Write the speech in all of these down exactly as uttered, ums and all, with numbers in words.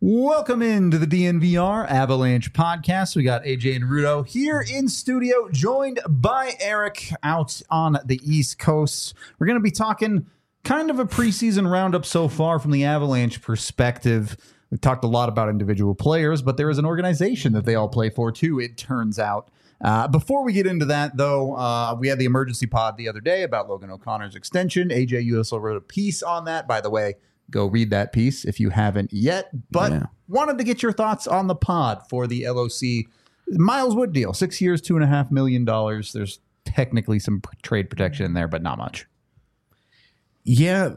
Welcome into the D N V R Avalanche podcast. We got A J and Rudo here in studio, joined by Eric out on the East Coast. We're going to be talking kind of a preseason roundup so far from the Avalanche perspective. We've talked a lot about individual players, but there is an organization that they all play for too, it turns out. Uh, before we get into that, though, uh, we had the emergency pod the other day about Logan O'Connor's extension. A J, you also wrote a piece on that, by the way. Go read that piece if you haven't yet. But yeah. Wanted to get your thoughts on the pod for the L O C Miles Wood deal. Six years, two and a half million dollars. There's technically some p- trade protection in there, but not much. Yeah.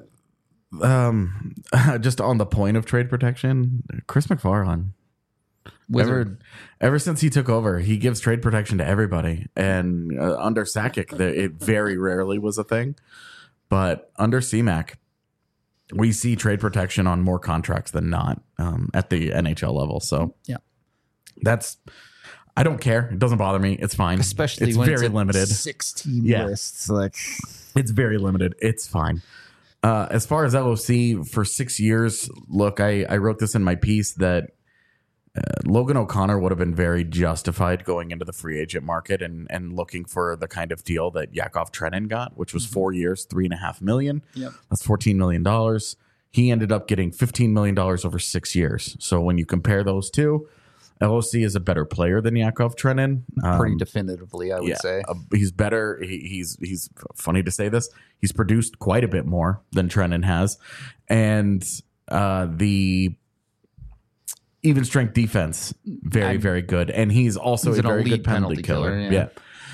Um, just on the point of trade protection, Chris McFarland. Ever, ever since he took over, he gives trade protection to everybody. And uh, under Sakic, it very rarely was a thing. But under C MAC, we see trade protection on more contracts than not um, at the N H L level. So yeah, that's, I don't care. It doesn't bother me. It's fine. Especially it's when very it's limited. sixteen yeah. lists. Like, it's very limited. It's fine. Uh, as far as L O C for six years, look, I, I wrote this in my piece that uh, Logan O'Connor would have been very justified going into the free agent market and, and looking for the kind of deal that Yakov Trenin got, which was four years, three and a half million. Yep. That's fourteen million dollars. He ended up getting fifteen million dollars over six years. So when you compare those two, L O C is a better player than Yakov Trenin. Um, Pretty definitively, I would yeah, say. Uh, he's better. He, he's, he's funny to say this. He's produced quite a bit more than Trenin has. And uh, the even strength defense, very, I'm, very good. And he's also he's a very good penalty, penalty killer. killer yeah. yeah.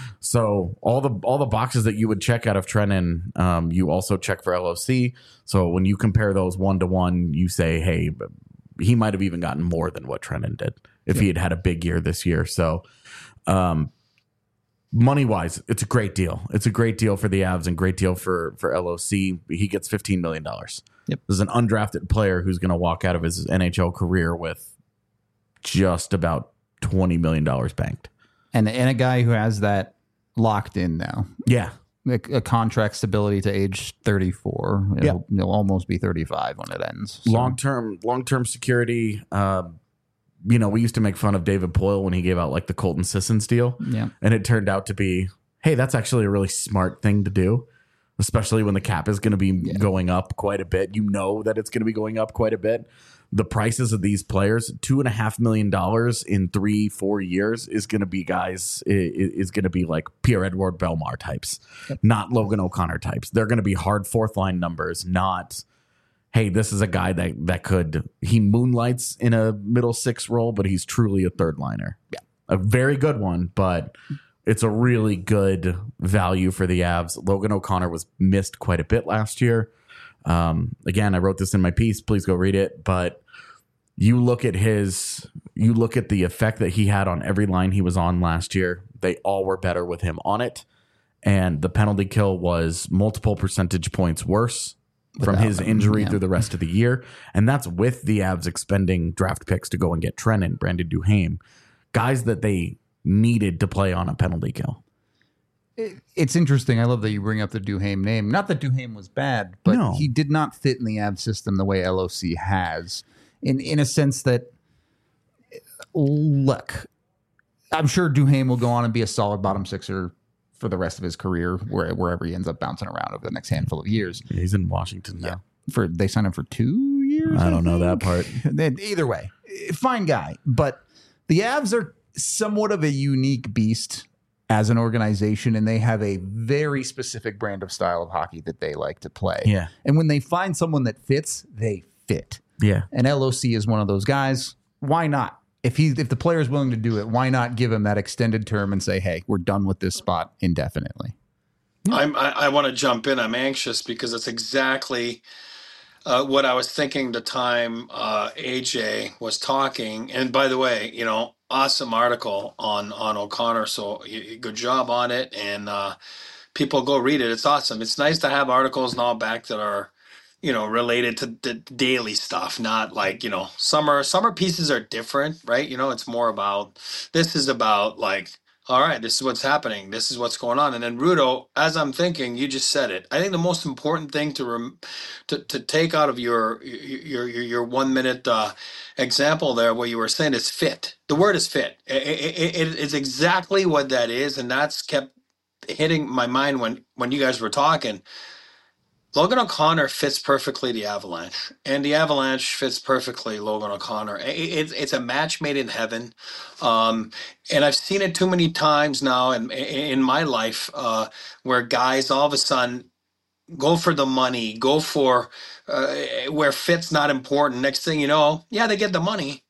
So all the all the boxes that you would check out of Trenin, um, you also check for L O C. So when you compare those one to one, you say, hey, he might have even gotten more than what Trenin did if yeah. he had had a big year this year. So um, money wise, it's a great deal. It's a great deal for the Avs and great deal for, for L O C. He gets fifteen million dollars. Yep. This is an undrafted player who's going to walk out of his N H L career with just about twenty million dollars banked. And, and a guy who has that locked in now. Yeah. A, a contract stability to age thirty-four. It'll, yeah. It'll almost be thirty-five when it ends. So. Long-term, long-term security. Uh, you know, we used to make fun of David Poile when he gave out like the Colton Sissons deal. Yeah. And it turned out to be, hey, that's actually a really smart thing to do, especially when the cap is going to be yeah. going up quite a bit. You know that it's going to be going up quite a bit. The prices of these players, two and a half million dollars in three, four years is going to be guys, is going to be like Pierre-Edouard Bellemare types, yep. not Logan O'Connor types. They're going to be hard fourth line numbers, not, hey, this is a guy that, that could, he moonlights in a middle six role, but he's truly a third liner. Yeah. A very good one, but it's a really good value for the Avs. Logan O'Connor was missed quite a bit last year. Um, again, I wrote this in my piece. Please go read it. But you look at his, you look at the effect that he had on every line he was on last year. They all were better with him on it. And the penalty kill was multiple percentage points worse from Without his injury him, yeah. through the rest of the year. And that's with the Avs expending draft picks to go and get Trenin, Brandon Duhaime, guys that they needed to play on a penalty kill. It's interesting. I love that you bring up the Duhaime name. Not that Duhaime was bad, but no. he did not fit in the Avs system the way L O C has. In in a sense that, look, I'm sure Duhaime will go on and be a solid bottom sixer for the rest of his career, where, wherever he ends up bouncing around over the next handful of years. Yeah, he's in Washington now. Yeah. For they signed him for two years. I, I don't think. know that part. Either way, fine guy. But the Avs are somewhat of a unique beast as an organization, and they have a very specific brand of style of hockey that they like to play. Yeah. And when they find someone that fits, they fit. Yeah. And L O C is one of those guys. Why not? If he if the player is willing to do it, why not give him that extended term and say, hey, we're done with this spot indefinitely? Yeah. I'm, I, I want to jump in. I'm anxious because it's exactly uh, what I was thinking the time uh, A J was talking. And by the way, you know, awesome article on, on O'Connor. So good job on it. And uh, people go read it. It's awesome. It's nice to have articles now back that are, you know, related to the daily stuff, not like, you know, summer, summer pieces are different, right? You know, it's more about, this is about like all right, this is what's happening. This is what's going on. And then Rudo, as I'm thinking, you just said it. I think the most important thing to rem- to, to take out of your your your, your one minute uh, example there, what you were saying, is fit. The word is fit. It, it, it, it's exactly what that is, and that's kept hitting my mind when when you guys were talking. Logan O'Connor fits perfectly the Avalanche, and the Avalanche fits perfectly Logan O'Connor. It, it, it's a match made in heaven, um, and I've seen it too many times now in in my life uh, where guys all of a sudden go for the money, go for uh, where fit's not important. Next thing you know, yeah, they get the money,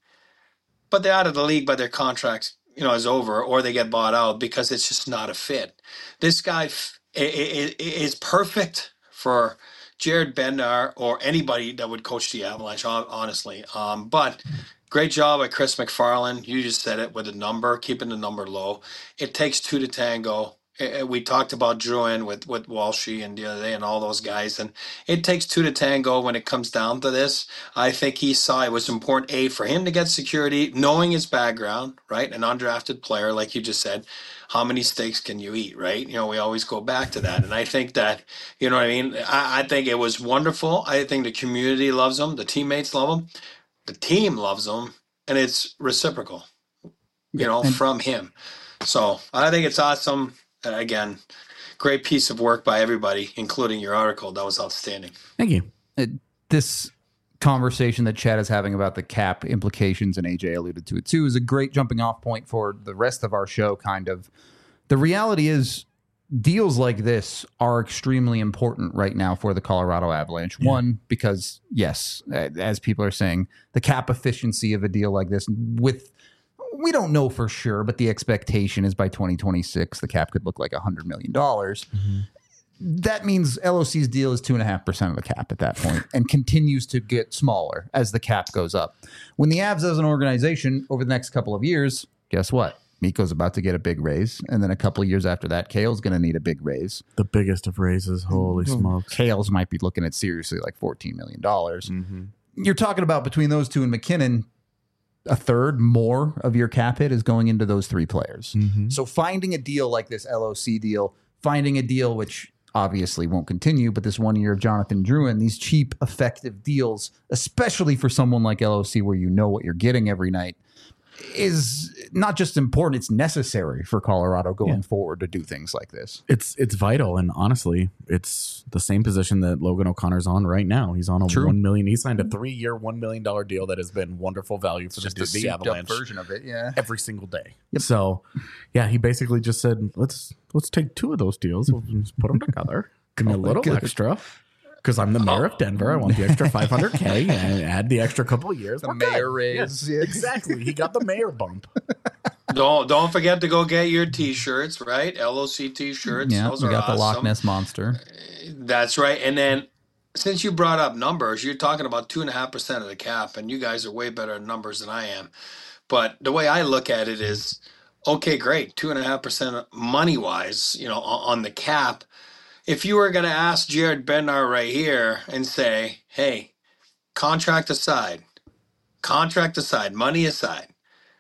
but they're out of the league by their contract, you know, is over, or they get bought out because it's just not a fit. This guy f- i- i- i- is perfect for Jared Bednar or anybody that would coach the Avalanche, hon- honestly. Um, but great job by Chris McFarland. You just said it with the number, keeping the number low. It takes two to tango. Eh, eh, We talked about Druin with with Walshy and the other day and all those guys, and it takes two to tango when it comes down to this. I think he saw it was important, A, for him to get security, knowing his background, right? An undrafted player, like you just said. How many steaks can you eat, right? You know, we always go back to that. And I think that, you know what I mean? I, I think it was wonderful. I think the community loves him. The teammates love him. The team loves him. And it's reciprocal, you know, and from him. So I think it's awesome. Uh, again, great piece of work by everybody, including your article. That was outstanding. Thank you. it, this conversation that Chad is having about the cap implications, and A J alluded to it too, is a great jumping off point for the rest of our show. Kind of, the reality is, deals like this are extremely important right now for the Colorado Avalanche. Yeah. One, because yes, as people are saying, the cap efficiency of a deal like this, with we don't know for sure, but the expectation is by twenty twenty-six, the cap could look like one hundred million dollars. Mm-hmm. That means L O C's deal is two point five percent of the cap at that point and continues to get smaller as the cap goes up. When the Avs as an organization over the next couple of years, guess what? Mikko's about to get a big raise. And then a couple of years after that, Kale's going to need a big raise. The biggest of raises. Holy mm-hmm. smokes. Kale's might be looking at seriously like fourteen million dollars. Mm-hmm. You're talking about between those two and McKinnon, a third more of your cap hit is going into those three players. Mm-hmm. So finding a deal like this L O C deal, finding a deal which obviously won't continue, but this one year of Jonathan Druin, these cheap, effective deals, especially for someone like L O C where you know what you're getting every night, is not just important, it's necessary for Colorado going yeah. forward to do things like this. It's it's vital, and honestly, it's the same position that Logan O'Connor's on right now. He's on a True. one million. He signed a three-year, one million dollar deal that has been wonderful value for just the, the, the Avalanche version of it, yeah, every single day. Yep. So, yeah, he basically just said, "Let's let's take two of those deals, we'll just put them together, give me a little good. extra." Because I'm the mayor oh. of Denver. I want the extra five hundred K and add the extra couple of years. The We're mayor good. raise. Yes, yeah. Exactly. He got the mayor bump. Don't don't forget to go get your T-shirts, right? L O C T-shirts. Yeah, Those we are got awesome. the Loch Ness Monster. That's right. And then since you brought up numbers, you're talking about two and a half percent of the cap, and you guys are way better at numbers than I am. But the way I look at it is, okay, great, two and a half percent money-wise, you know, on the cap. If you were going to ask Jared Bednar right here and say, hey, contract aside, contract aside, money aside,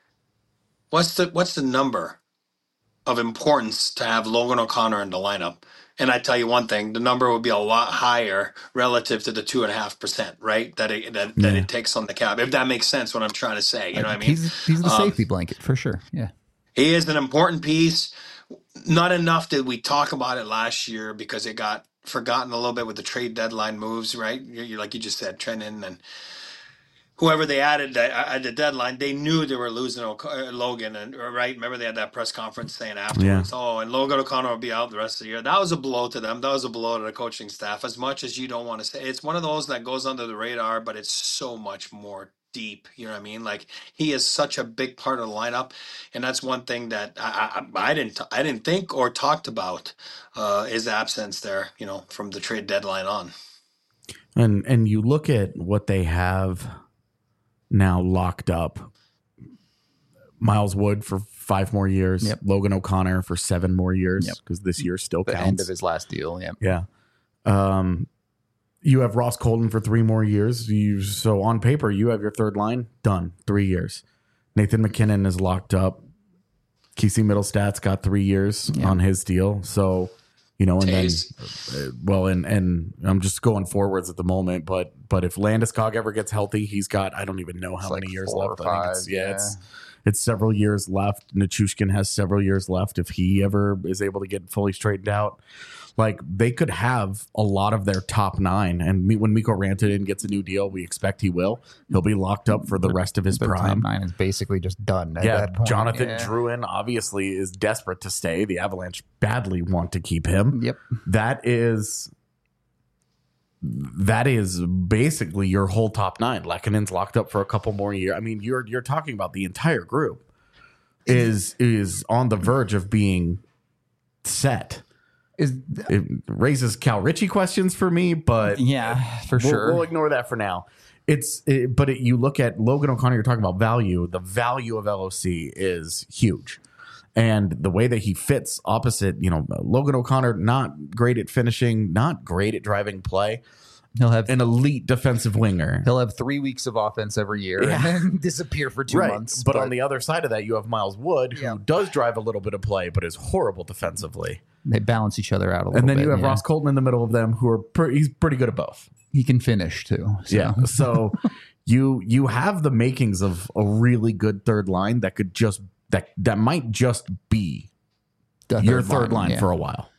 what's the what's the number of importance to have Logan O'Connor in the lineup? And I tell you one thing, the number would be a lot higher relative to the two and a half percent, right? That it that, yeah. that it takes on the cap. If that makes sense, what I'm trying to say, you know what I mean? He's, he's the um, safety blanket for sure. Yeah, he is an important piece. Not enough did we talk about it last year because it got forgotten a little bit with the trade deadline moves, right? You're, you're like you just said, Trenton and whoever they added at the deadline, they knew they were losing o- Logan, and right. Remember they had that press conference saying afterwards, yeah. "Oh, and Logan O'Connor will be out the rest of the year." That was a blow to them. That was a blow to the coaching staff. As much as you don't want to say, it's one of those that goes under the radar, but it's so much more deep. You know what I mean? Like he is such a big part of the lineup, and that's one thing that I, I, I didn't I didn't think or talked about uh, his absence there. You know, from the trade deadline on. And and you look at what they have now locked up. Miles Wood for five more years. Yep. Logan O'Connor for seven more years because yep. this year still the counts. End of his last deal. Yeah. Yeah. Um, you have Ross Colton for three more years. You so on paper you have your third line done. Three years. Nathan McKinnon is locked up Kesey Middlestat's got three years Yeah. on his deal. So, you know, and Taze. then, uh, well, and, and I'm just going forwards at the moment, but, but if Landeskog ever gets healthy, he's got, I don't even know how like many years four left. or I think five, it's, yeah, yeah. it's, it's several years left. Nichushkin has several years left. If he ever is able to get fully straightened out, like they could have a lot of their top nine. And me, when Mikko Rantanen gets a new deal, we expect he will. He'll be locked up for the rest of his The top prime. nine is basically just done at Yeah, that point. Jonathan Yeah. Drouin obviously is desperate to stay. The Avalanche badly want to keep him. Yep. That is that is basically your whole top nine. Lekkonen's locked up for a couple more years. I mean, you're you're talking about the entire group is is on the verge of being set. Is It raises Cal Ritchie questions for me, but yeah, for we'll, sure. we'll ignore that for now. It's it, but it, you look at Logan O'Connor. You're talking about value. The value of L O C is huge, and the way that he fits opposite, you know, Logan O'Connor, not great at finishing, not great at driving play, he'll have an elite defensive winger. he'll have three weeks of offense every year Yeah. and then disappear for two Right, months. but, on the other side of that, you have Miles Wood, who Yeah. does drive a little bit of play, but is horrible defensively. they balance each other out a little And then bit. you have yeah. Ross Colton in the middle of them, who are pre- he's pretty good at both. He can finish too. So. Yeah. So you you have the makings of a really good third line that could just that that might just be The your third line yeah. for a while.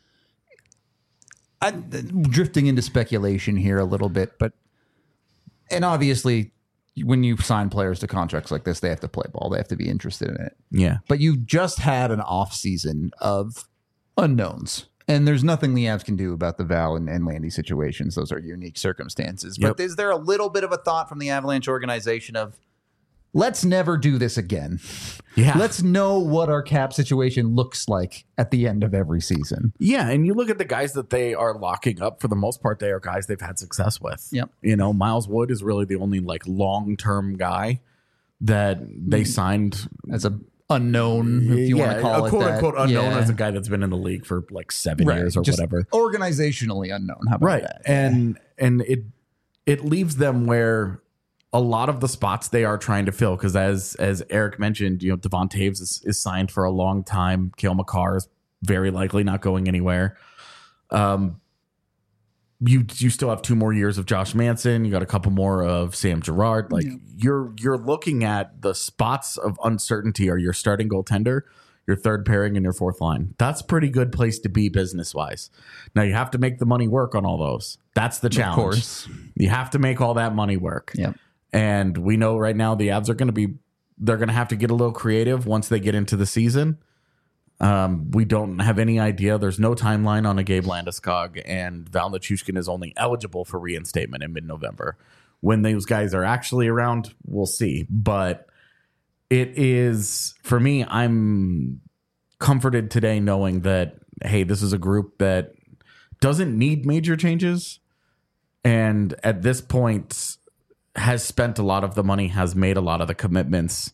I, drifting into speculation here a little bit, but and obviously when you sign players to contracts like this, they have to play ball. They have to be interested in it. Yeah. But you just had an off season of unknowns. And there's nothing the Avs can do about the Val and, and Landy situations. Those are unique circumstances. Yep. But is there a little bit of a thought from the Avalanche organization of let's never do this again? Yeah. Let's know what our cap situation looks like at the end of every season. Yeah, and you look at the guys that they are locking up, for the most part, they are guys they've had success with. Yep. You know, Miles Wood is really the only like long-term guy that they signed. As a unknown, if you want to call a it quote that. unquote unknown Yeah. as a guy that's been in the league for like seven Right. years or Just whatever. Organizationally unknown. How about Right. that? And and it it leaves them where a lot of the spots they are trying to fill, because as as Eric mentioned, you know, Devon Taves is, is signed for a long time. Cale Makar is very likely not going anywhere. Um, you you still have two more years of Josh Manson. You got a couple more of Sam Girard. Like Yeah. you're you're looking at the spots of uncertainty are your starting goaltender, your third pairing, and your fourth line. That's a pretty good place to be business wise. Now you have to make the money work on all those. That's the challenge. Of course. You have to make all that money work. Yep. And we know right now the Avs are going to be, they're going to have to get a little creative once they get into the season. Um, we don't have any idea. There's no timeline on a Gabe Landeskog, and Val Nichushkin is only eligible for reinstatement in mid-November. When those guys are actually around, we'll see. But it is, for me, I'm comforted today knowing that, hey, this is a group that doesn't need major changes. And at this point, has spent a lot of the money, has made a lot of the commitments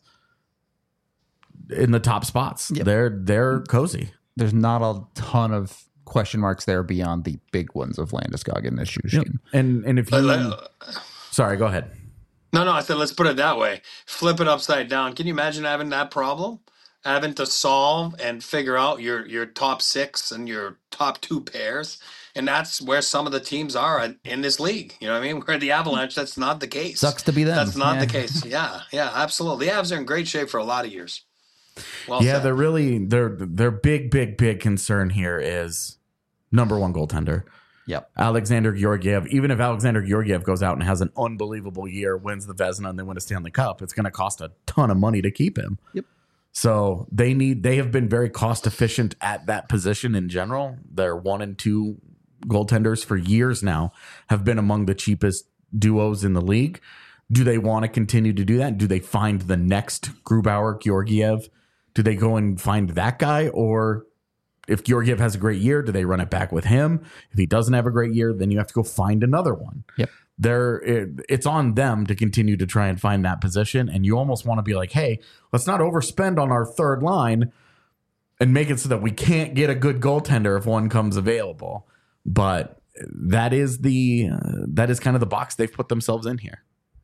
in the top spots. Yep. They're they're cozy. There's not a ton of question marks there beyond the big ones of Landeskog and Nichushkin. And and if you Uh, sorry, go ahead. No, no, I said let's put it that way. Flip it upside down. Can you imagine having that problem? Having to solve and figure out your your top six and your top two pairs. And that's where some of the teams are in, in this league. You know what I mean? Where the Avalanche, that's not the case. Sucks to be them. That's not Yeah. the case. Yeah, yeah, absolutely. The Avs are in great shape for a lot of years. Well Yeah, said. they're really their their big, big, big concern here is number one goaltender. Yep. Alexander Georgiev. Even if Alexander Georgiev goes out and has an unbelievable year, wins the Vezina, and they win a Stanley Cup, it's going to cost a ton of money to keep him. Yep. So they need they have been very cost efficient at that position in general. Their one and two goaltenders for years now have been among the cheapest duos in the league. Do they want to continue to do that? Do they find the next Grubauer, Georgiev? Do they go and find that guy? Or if Georgiev has a great year, do they run it back with him? If he doesn't have a great year, then you have to go find another one. Yep. They're, it, it's on them to continue to try and find that position. And you almost want to be like, hey, let's not overspend on our third line and make it so that we can't get a good goaltender if one comes available. But that is the uh, that is kind of the box they've put themselves in here.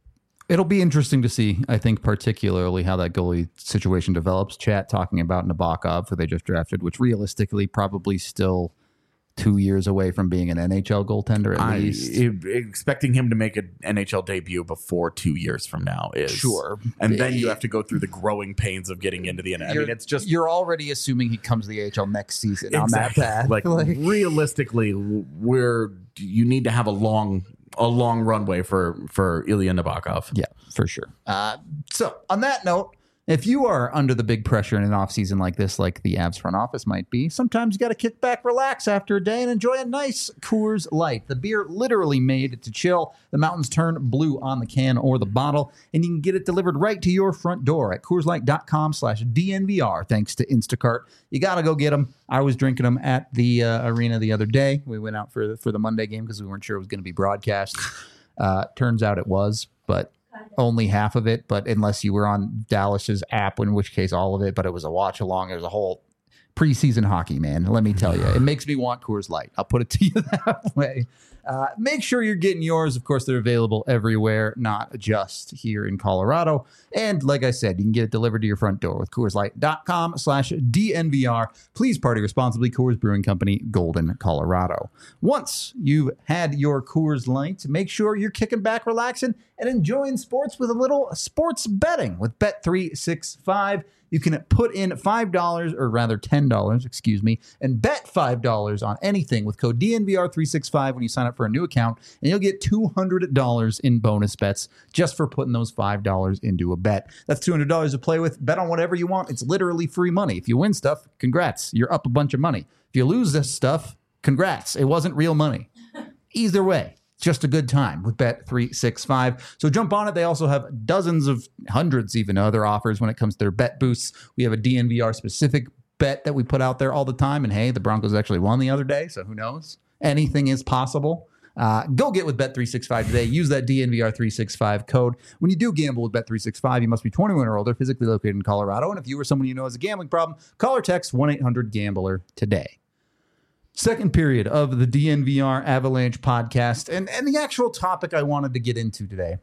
It'll be interesting to see, I think, particularly how that goalie situation develops. Chat talking about Nabokov, who they just drafted, which realistically probably still two years away from being an N H L goaltender at I, least. it- expecting him to make an N H L debut before two years from now is Sure. and then you have to go through the growing pains of getting into the N H L. I You're- mean, it's just you're already assuming he comes to the A H L next season exactly. on that path. Like, realistically, we're you need to have a long a long runway for for Ilya Nabokov. Yeah, for sure. Uh, so on that note, if you are under the big pressure in an offseason like this, like the Avs front office might be, sometimes you got to kick back, relax after a day, and enjoy a nice Coors Light. The beer literally made to chill. The mountains turn blue on the can or the bottle, and you can get it delivered right to your front door at CoorsLight.com slash DNVR, thanks to Instacart. You got to go get them. I was drinking them at the uh, arena the other day. We went out for the, for the Monday game because we weren't sure it was going to be broadcast. Uh, turns out it was, but only half of it, but unless you were on Dallas's app, in which case all of it, but it was a watch along. It was a whole preseason hockey, man. Let me tell you, it makes me want Coors Light. I'll put it to you that way. Uh, make sure you're getting yours. Of course, they're available everywhere, not just here in Colorado. And like I said, you can get it delivered to your front door with CoorsLight.com slash DNVR. Please party responsibly. Coors Brewing Company, Golden, Colorado. Once you've had your Coors Light, make sure you're kicking back, relaxing, and enjoying sports with a little sports betting with Bet three sixty-five. You can put in five dollars, or rather ten dollars, excuse me, and bet five dollars on anything with code D N V R three sixty-five when you sign up for a new account, and you'll get two hundred dollars in bonus bets just for putting those five dollars into a bet. That's two hundred dollars to play with. Bet on whatever you want. It's literally free money. If you win stuff, congrats. You're up a bunch of money. If you lose this stuff, congrats. It wasn't real money. Either way, just a good time with Bet three sixty-five. So jump on it. They also have dozens of hundreds, even other offers when it comes to their bet boosts. We have a D N V R specific bet that we put out there all the time. And hey, the Broncos actually won the other day. So who knows? Anything is possible. Uh, go get with Bet three sixty-five today. Use that D N V R three sixty-five code. When you do gamble with Bet three sixty-five, you must be twenty-one or older, physically located in Colorado. And if you or someone you know has a gambling problem, call or text one eight hundred gambler today. Second period of the D N V R Avalanche podcast, and, and the actual topic I wanted to get into today.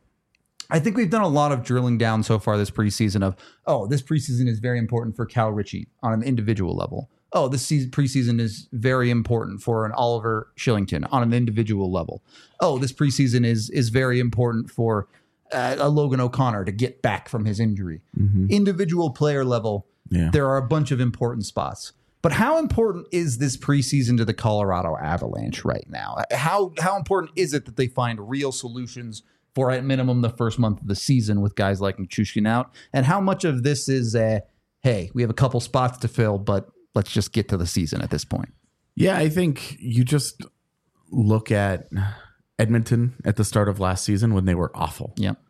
I think we've done a lot of drilling down so far this preseason of, oh, this preseason is very important for Cal Ritchie on an individual level. Oh, this season, preseason is very important for an Oliver Shillington on an individual level. Oh, this preseason is is very important for uh, a Logan O'Connor to get back from his injury. Mm-hmm. Individual player level, Yeah. there are a bunch of important spots. But how important is this preseason to the Colorado Avalanche right now? How how important is it that they find real solutions for, at minimum, the first month of the season with guys like Nichushkin out? And how much of this is, uh, hey, we have a couple spots to fill, but let's just get to the season at this point? Yeah, I think you just look at Edmonton at the start of last season when they were awful. Yep.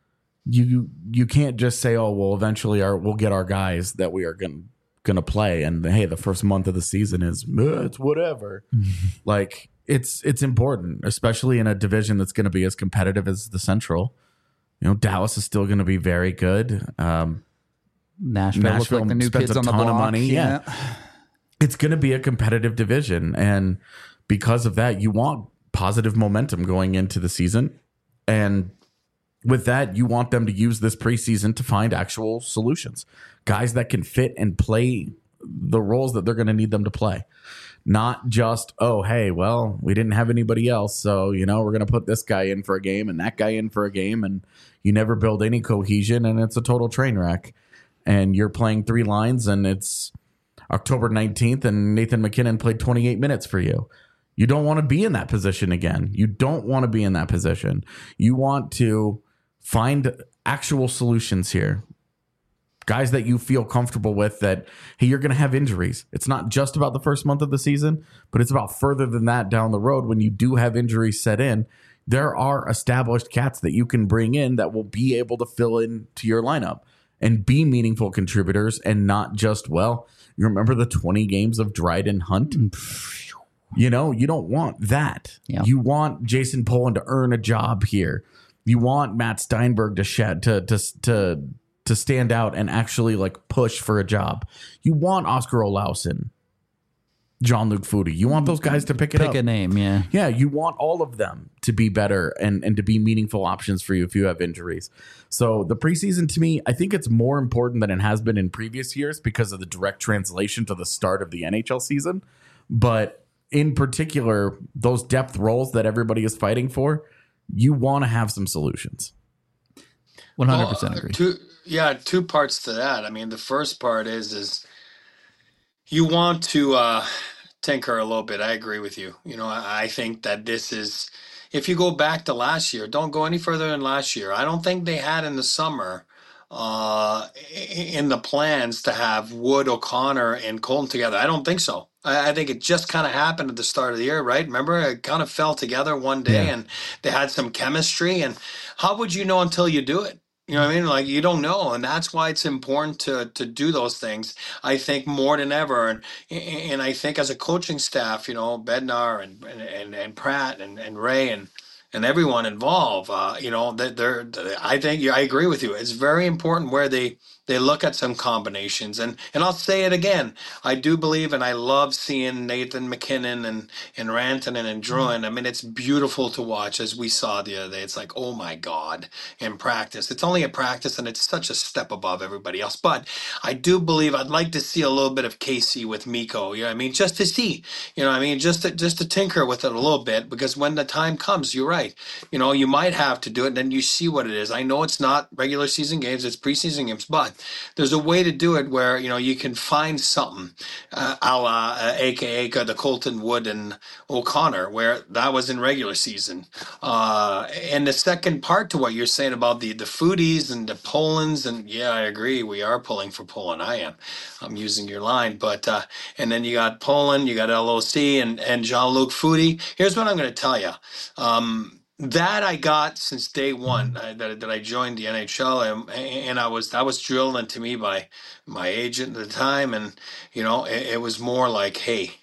You you can't just say, oh, well, eventually our we'll get our guys that we are going going to play, and hey, the first month of the season is uh, it's whatever. Like it's it's important, especially in a division that's going to be as competitive as the Central. You know, Dallas is still going to be very good. Um, Nashville, Nashville looks like the new spends kids a on the ton of block. money, yeah. It's going to be a competitive division, and because of that, you want positive momentum going into the season, and with that, you want them to use this preseason to find actual solutions, guys that can fit and play the roles that they're going to need them to play. Not just, oh, hey, well, we didn't have anybody else, so, you know, we're going to put this guy in for a game and that guy in for a game, and you never build any cohesion, and it's a total train wreck. And you're playing three lines, and it's October nineteenth, and Nathan MacKinnon played twenty-eight minutes for you. You don't want to be in that position again. You don't want to be in that position. You want to find actual solutions here. Guys that you feel comfortable with that, hey, you're going to have injuries. It's not just about the first month of the season, but it's about further than that down the road when you do have injuries set in. There are established cats that you can bring in that will be able to fill into your lineup and be meaningful contributors, and not just, well, you remember the twenty games of Dryden Hunt? You know, you don't want that. Yeah. You want Jason Poland to earn a job here. You want Matt Steinberg to shed, to to to to stand out and actually like push for a job. You want Oscar Olausen. Jean-Luc Foudy. You want those guys to pick it Pick up. a name, yeah. Yeah, you want all of them to be better and, and to be meaningful options for you if you have injuries. So the preseason, to me, I think it's more important than it has been in previous years because of the direct translation to the start of the N H L season. But in particular, those depth roles that everybody is fighting for, you want to have some solutions. one hundred percent agree. Uh, two, yeah, two parts to that. I mean, the first part is is you want to uh, tinker a little bit. I agree with you. You know, I, I think that this is, if you go back to last year, don't go any further than last year. I don't think they had in the summer uh, in the plans to have Wood, O'Connor, and Colton together. I don't think so. I, I think it just kind of happened at the start of the year, right? Remember, it kind of fell together one day Yeah. and they had some chemistry. And how would you know until you do it? You know what I mean? Like, you don't know, and that's why it's important to to do those things. I think more than ever, and and I think as a coaching staff, you know, Bednar and and and Pratt and and Ray and and everyone involved, uh, you know, that they're, I think I agree with you. It's very important where they they look at some combinations, and and I'll say it again. I do believe, and I love seeing Nathan McKinnon and and Rantanen and Druin. I mean, it's beautiful to watch, as we saw the other day. It's like, oh my God, in practice. It's only a practice, and it's such a step above everybody else. But I do believe I'd like to see a little bit of Casey with Miko. You know what I mean? Just to see, you know what I mean? Just to, just to tinker with it a little bit, because when the time comes, you're right. You know, you might have to do it, and then you see what it is. I know it's not regular season games, it's preseason games, but there's a way to do it where, you know, you can find something, uh, a la, uh, A K A the Colton Wood and O'Connor, where that was in regular season. Uh, and the second part to what you're saying about the, the foodies and the Polans, and yeah, I agree, we are pulling for Poland. I am. I'm using your line, but, uh, and then you got Poland, you got L O C and, and Jean-Luc Foudy. Here's what I'm going to tell you. Um, That I got since day one uh, that, that I joined the N H L, and, and I was that was drilled into me by my agent at the time, and you know it, it was more like, hey,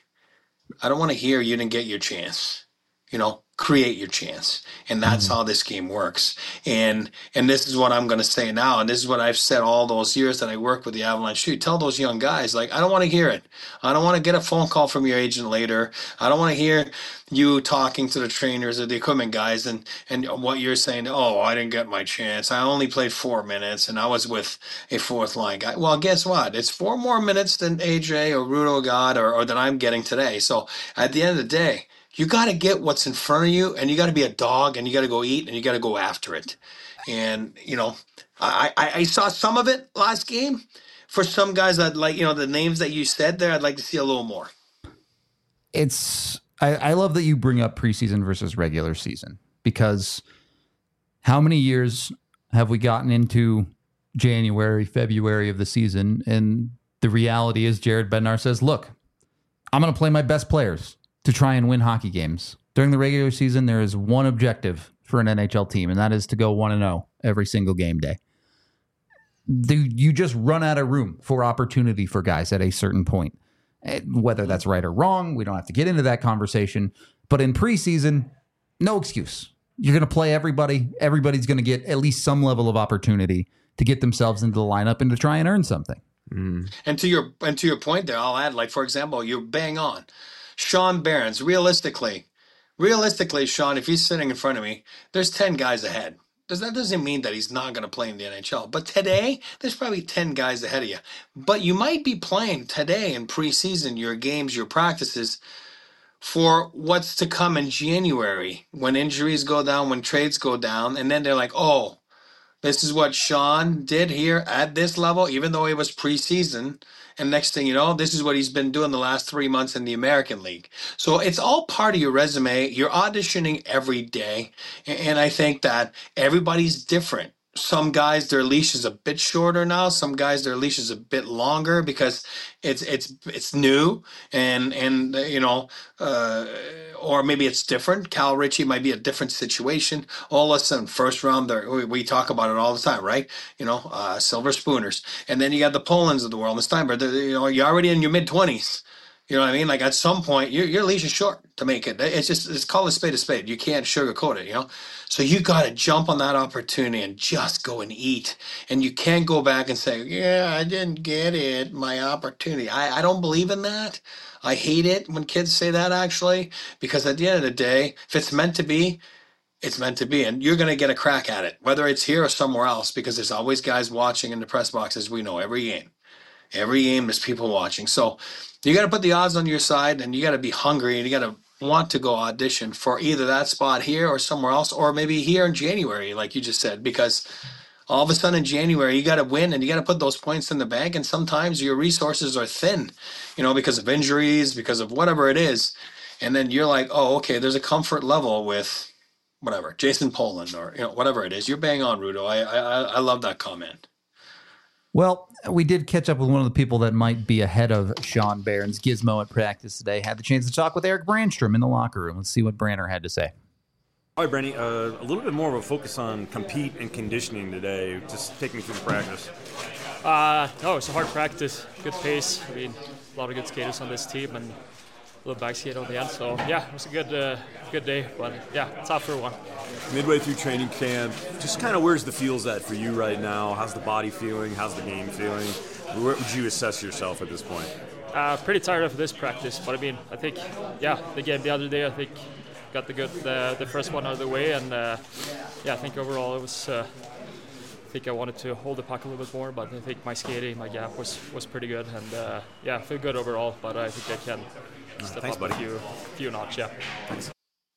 I don't want to hear you didn't get your chance. You know, create your chance, and that's mm-hmm. how this game works. And and this is what I'm going to say now, and this is what I've said all those years that I worked with the Avalanche. Shoot, tell those young guys, like, I don't want to hear it. I don't want to get a phone call from your agent later. I don't want to hear you talking to the trainers or the equipment guys and and what you're saying. Oh, I didn't get my chance. I only played four minutes, and I was with a fourth line guy. Well, guess what? It's four more minutes than A J or Rudo got, or or that I'm getting today. So at the end of the day, you got to get what's in front of you, and you got to be a dog, and you got to go eat, and you got to go after it. And, you know, I, I, I saw some of it last game. For some guys, I'd like, you know, the names that you said there, I'd like to see a little more. It's, I, I love that you bring up preseason versus regular season, because how many years have we gotten into January, February of the season, and the reality is Jared Bednar says, look, I'm going to play my best players to try and win hockey games. During the regular season, there is one objective for an N H L team, and that is to go one and oh every single game day. You just run out of room for opportunity for guys at a certain point. Whether that's right or wrong, we don't have to get into that conversation. But in preseason, no excuse. You're going to play everybody. Everybody's going to get at least some level of opportunity to get themselves into the lineup and to try and earn something. Mm. And to your and to your point there, I'll add, like, for example, you're bang on. Sean Barons, realistically, realistically, Sean, if he's sitting in front of me, there's ten guys ahead. Does that doesn't mean that he's not going to play in the N H L. But today, there's probably ten guys ahead of you. But you might be playing today in preseason, your games, your practices, for what's to come in January, when injuries go down, when trades go down, and then they're like, oh, this is what Sean did here at this level, even though it was preseason. And next thing you know, this is what he's been doing the last three months in the American League. So it's all part of your resume. You're auditioning every day. And I think that everybody's different. Some guys, their leash is a bit shorter now. Some guys, their leash is a bit longer because it's it's it's new, and and you know, uh, or maybe it's different. Cal Ritchie might be a different situation. All of a sudden, first round, we, we talk about it all the time, right? You know, uh, silver spooners, and then you got the Polans of the world, the Steinberg. You know, you're already in your mid twenties. You know what I mean? Like at some point, your your leash is short to make it. It's just it's called a spade a spade. You can't sugarcoat it, you know. So you got to jump on that opportunity and just go and eat. And you can't go back and say, "Yeah, I didn't get it, my opportunity." I I don't believe in that. I hate it when kids say that actually, because at the end of the day, if it's meant to be, it's meant to be, and you're going to get a crack at it, whether it's here or somewhere else, because there's always guys watching in the press boxes. We know every game. Every game there's people watching. So you got to put the odds on your side, and you got to be hungry, and you got to want to go audition for either that spot here or somewhere else, or maybe here in January, like you just said, because all of a sudden in January you got to win and you got to put those points in the bank, and sometimes your resources are thin, you know, because of injuries, because of whatever it is, and then you're like, oh, okay, there's a comfort level with whatever, Jason Poland or you know whatever it is. You're bang on, Rudo. I I I love that comment. Well, we did catch up with one of the people that might be ahead of Sean Barron's Gizmo at practice today. Had the chance to talk with Erik Brannstrom in the locker room. Let's see what Branner had to say. All right, Branny, uh, a little bit more of a focus on compete and conditioning today. Just take me through the practice. Uh, no, it's a hard practice. Good pace. I mean, a lot of good skaters on this team and a little back skate on the end. So, yeah, it was a good uh, good day. But, yeah, tough for one. Midway through training camp, just kind of where's the feels at for you right now? How's the body feeling? How's the game feeling? Where would you assess yourself at this point? Uh, pretty tired of this practice. But, I mean, I think, yeah, the game the other day, I think, got the good the, the first one out of the way. And, uh, yeah, I think overall it was uh, I think I wanted to hold the puck a little bit more. But I think my skating, my gap was, was pretty good. And, uh, yeah, I feel good overall. But I think I can step Thanks, up buddy. a few, few notch, yeah. Thanks.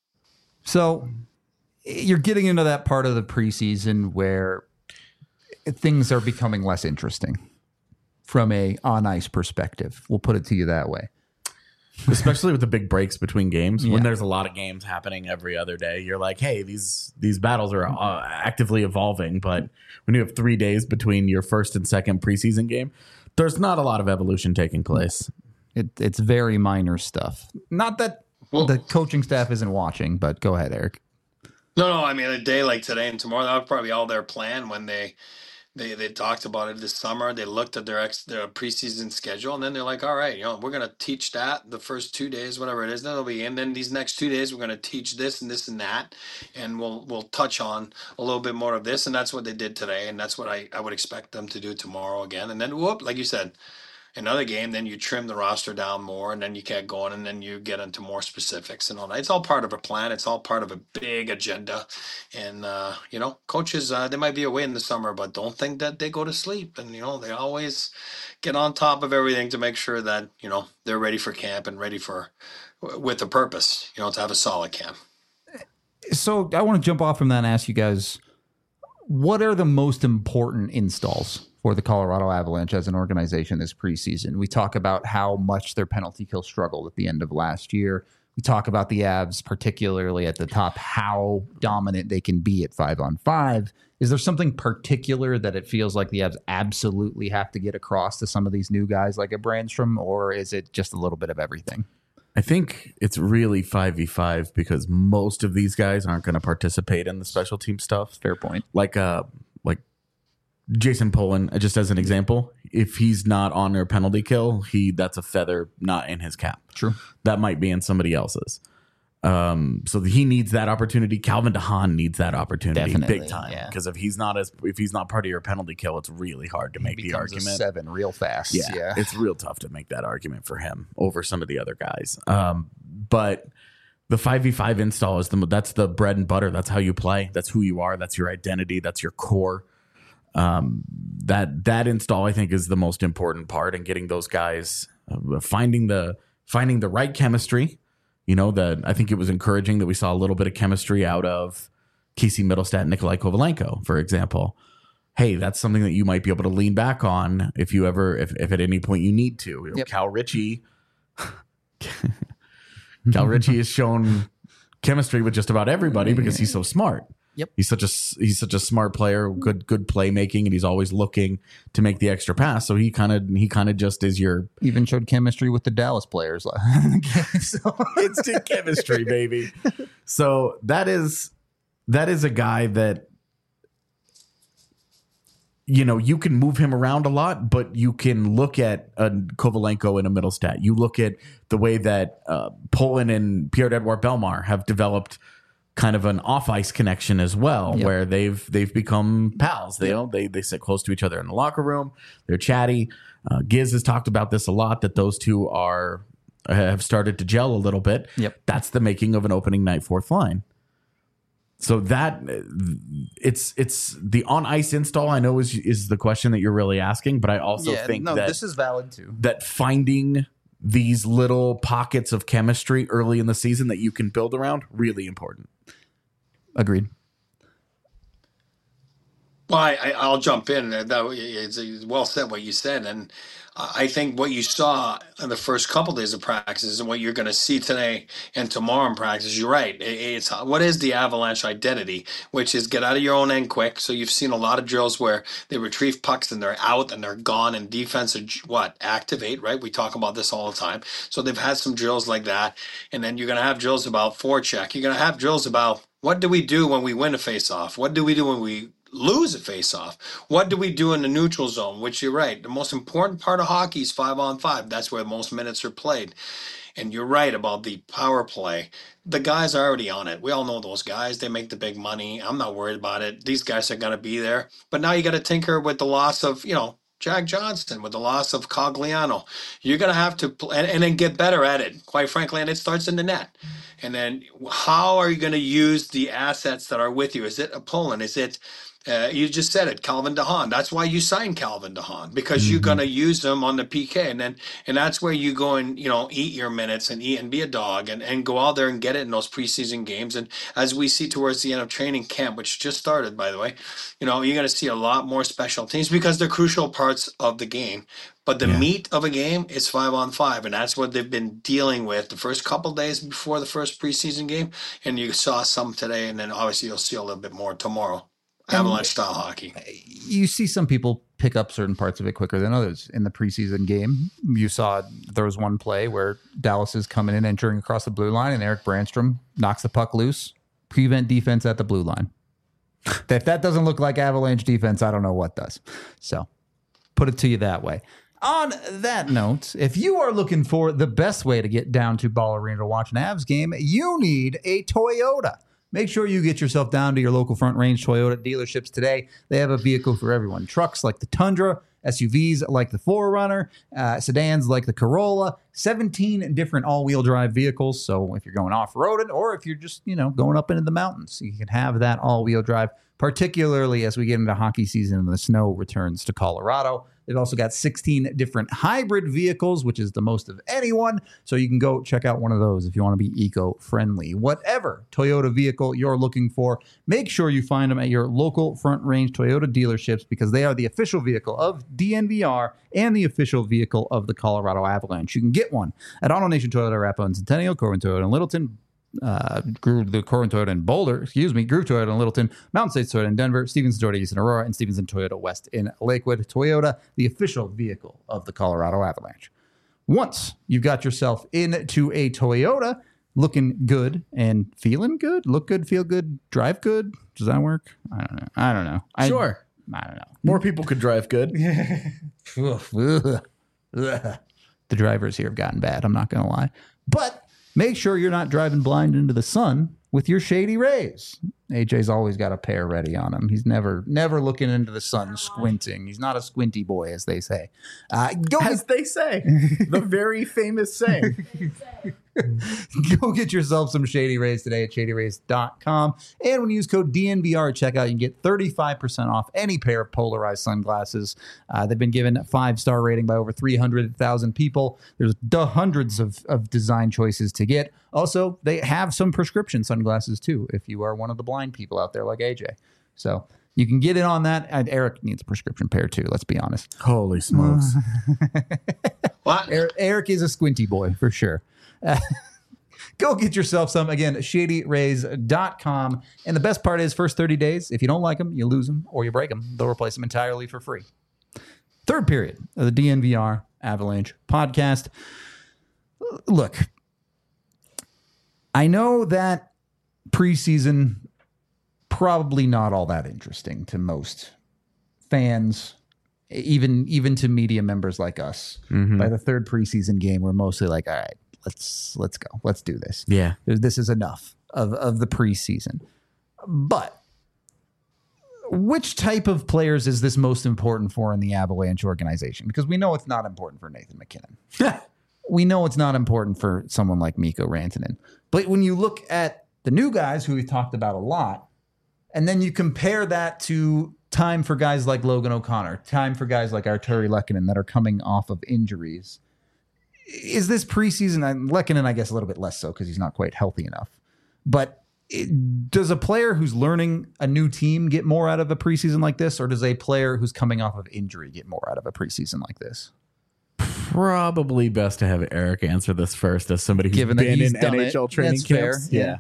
So you're getting into that part of the preseason where things are becoming less interesting from a on-ice perspective. We'll put it to you that way. Especially with the big breaks between games, Yeah. when there's a lot of games happening every other day, you're like, hey, these these battles are uh, actively evolving. But when you have three days between your first and second preseason game, there's not a lot of evolution taking place. It, it's very minor stuff. Not that Well- the coaching staff isn't watching, but go ahead, Erik. No, no. I mean, a day like today and tomorrow, that was probably all their plan when they they they talked about it this summer. They looked at their ex their preseason schedule, and then they're like, all right, you know, we're gonna teach that the first two days, whatever it is. Then it'll be, and then these next two days, we're gonna teach this and this and that, and we'll we'll touch on a little bit more of this, and that's what they did today, and that's what I I would expect them to do tomorrow again, and then whoop, like you said. Another game, then you trim the roster down more, and then you get going, and then you get into more specifics and all that. It's all part of a plan. It's all part of a big agenda. And, uh, you know, coaches, uh, they might be away in the summer, but don't think that they go to sleep. And, you know, they always get on top of everything to make sure that, you know, they're ready for camp and ready for, with a purpose, you know, to have a solid camp. So I want to jump off from that and ask you guys, what are the most important installs for the Colorado Avalanche as an organization this preseason? We talk about how much their penalty kill struggled at the end of last year. We talk about the Avs, particularly at the top, how dominant they can be at five on five. Is there something particular that it feels like the Avs absolutely have to get across to some of these new guys like a Brannstrom, or is it just a little bit of everything? I think it's really five v five because most of these guys aren't going to participate in the special team stuff. Fair point. Like uh, like Jason Poland, just as an example, if he's not on their penalty kill, he that's a feather not in his cap. True. That might be in somebody else's. Um, so he needs that opportunity. Calvin DeHaan needs that opportunity Definitely, big time yeah. because if he's not as if he's not part of your penalty kill, it's really hard to make the Becomes a argument. seven real fast. Yeah, yeah. it's real tough to make that argument for him over some of the other guys. Um, but the five v five install is the that's the bread and butter. That's how you play. That's who you are. That's your identity. That's your core. Um, that that install I think is the most important part in getting those guys uh, finding the finding the right chemistry. You know, that I think it was encouraging that we saw a little bit of chemistry out of Casey Middlestat and Nikolai Kovalenko, for example. Hey, that's something that you might be able to lean back on if you ever, if, if at any point you need to. You know, Yep. Cal Ritchie, Cal Ritchie has shown chemistry with just about everybody because he's so smart. Yep. He's such a he's such a smart player, good good playmaking, and he's always looking to make the extra pass. So he kind of he kind of just is your Even showed chemistry with the Dallas players. So instant chemistry, baby. So that is that is a guy that you know, you can move him around a lot, but you can look at a Kovalenko in a middle stat. You look at the way that uh, Poland and Pierre-Edouard Bellemare have developed kind of an off-ice connection as well, yep. where they've they've become pals. They, yep. you know, they they sit close to each other in the locker room. They're chatty. Uh, Giz has talked about this a lot, that those two are have started to gel a little bit. Yep. That's the making of an opening night fourth line. So that it's it's the on ice install, I know is is the question that you're really asking, but I also yeah, think no, that this is valid too. That finding these little pockets of chemistry early in the season that you can build around, really important. Agreed. Well, I, I'll jump in. That it's well said what you said, and I think what you saw in the first couple days of practices and what you're going to see today and tomorrow in practice, you're right. It's what is the Avalanche identity, which is get out of your own end quick. So you've seen a lot of drills where they retrieve pucks and they're out and they're gone, and defense are what activate, right? We talk about this all the time. So they've had some drills like that, and then you're going to have drills about forecheck. You're going to have drills about what do we do when we win a faceoff? What do we do when we lose a face-off? What do we do in the neutral zone? Which you're right. The most important part of hockey is five on five. That's where most minutes are played. And you're right about the power play. The guys are already on it. We all know those guys. They make the big money. I'm not worried about it. These guys are going to be there. But now you got to tinker with the loss of, you know, Jack Johnston, with the loss of Cogliano. You're going to have to play, and, and then get better at it, quite frankly, and it starts in the net. And then how are you going to use the assets that are with you? Is it a Poland? Is it Uh, you just said it, Calvin DeHaan. That's why you signed Calvin DeHaan, because mm-hmm. you're going to use him on the P K, and then and that's where you go and you know eat your minutes and eat and be a dog and, and go out there and get it in those preseason games. And as we see towards the end of training camp, which just started, by the way, you know you're going to see a lot more special teams because they're crucial parts of the game. But the yeah. meat of a game is five on five, and that's what they've been dealing with the first couple days before the first preseason game. And you saw some today, and then obviously you'll see a little bit more tomorrow. Avalanche style hockey. You see some people pick up certain parts of it quicker than others. In the preseason game, you saw there was one play where Dallas is coming in, entering across the blue line, and Eric Brandstrom knocks the puck loose, prevent defense at the blue line. If that doesn't look like Avalanche defense, I don't know what does. So put it to you that way. On that note, if you are looking for the best way to get down to Ball Arena to watch an Avs game, you need a Toyota. Make sure you get yourself down to your local Front Range Toyota dealerships today. They have a vehicle for everyone. Trucks like the Tundra, S U Vs like the four runner, uh, sedans like the Corolla, seventeen different all-wheel drive vehicles. So if you're going off-roading or if you're just, you know, going up into the mountains, you can have that all-wheel drive, particularly as we get into hockey season and the snow returns to Colorado. They've also got sixteen different hybrid vehicles, which is the most of anyone. So you can go check out one of those if you want to be eco-friendly. Whatever Toyota vehicle you're looking for, make sure you find them at your local Front Range Toyota dealerships because they are the official vehicle of D N V R and the official vehicle of the Colorado Avalanche. You can get one at Auto Nation Toyota, Arapahoe and Centennial, Corwin Toyota in Littleton, uh, the Corwin Toyota in Boulder, excuse me, Groove Toyota in Littleton, Mountain States Toyota in Denver, Stevenson Toyota East in Aurora, and Stevenson Toyota West in Lakewood. Toyota, the official vehicle of the Colorado Avalanche. Once you've got yourself into a Toyota, looking good and feeling good, look good, feel good, drive good. Does that work? I don't know. I don't know. I, sure. I don't know. More people could drive good. The drivers here have gotten bad. I'm not going to lie. But make sure you're not driving blind into the sun with your Shady Rays. A J's always got a pair ready on him. He's never never looking into the sun squinting. He's not a squinty boy, as they say. Uh, go as they say. The very famous saying. Go get yourself some Shady Rays today at shady rays dot com. And when you use code D N V R at checkout, you can get thirty-five percent off any pair of polarized sunglasses. Uh, they've been given a five-star rating by over three hundred thousand people. There's d- hundreds of, of design choices to get. Also, they have some prescription sunglasses, too, if you are one of the blind people out there like A J. So you can get in on that. And Eric needs a prescription pair, too, let's be honest. Holy smokes. What? Eric, Eric is a squinty boy, for sure. Uh, go get yourself some. Again, shady rays dot com. And the best part is, first thirty days, if you don't like them, you lose them or you break them, they'll replace them entirely for free. Third period of the D N V R Avalanche podcast. Look, I know that preseason probably not all that interesting to most fans, even even to media members like us, Mm-hmm. by the third preseason game, we're mostly like, all right, let's let's go, let's do this. Yeah. This is enough of of the preseason. But which type of players is this most important for in the Avalanche organization? Because we know it's not important for Nathan MacKinnon. We know it's not important for someone like Mikko Rantanen. But when you look at the new guys who we've talked about a lot, and then you compare that to time for guys like Logan O'Connor, time for guys like Arturi Lehkonen that are coming off of injuries, is this preseason, and Lehkonen, I guess, a little bit less so because he's not quite healthy enough. But it, does a player who's learning a new team get more out of a preseason like this, or does a player who's coming off of injury get more out of a preseason like this? Probably best to have Eric answer this first, as somebody who's Given that been he's in done N it. H L training That's fair. camps. Yeah.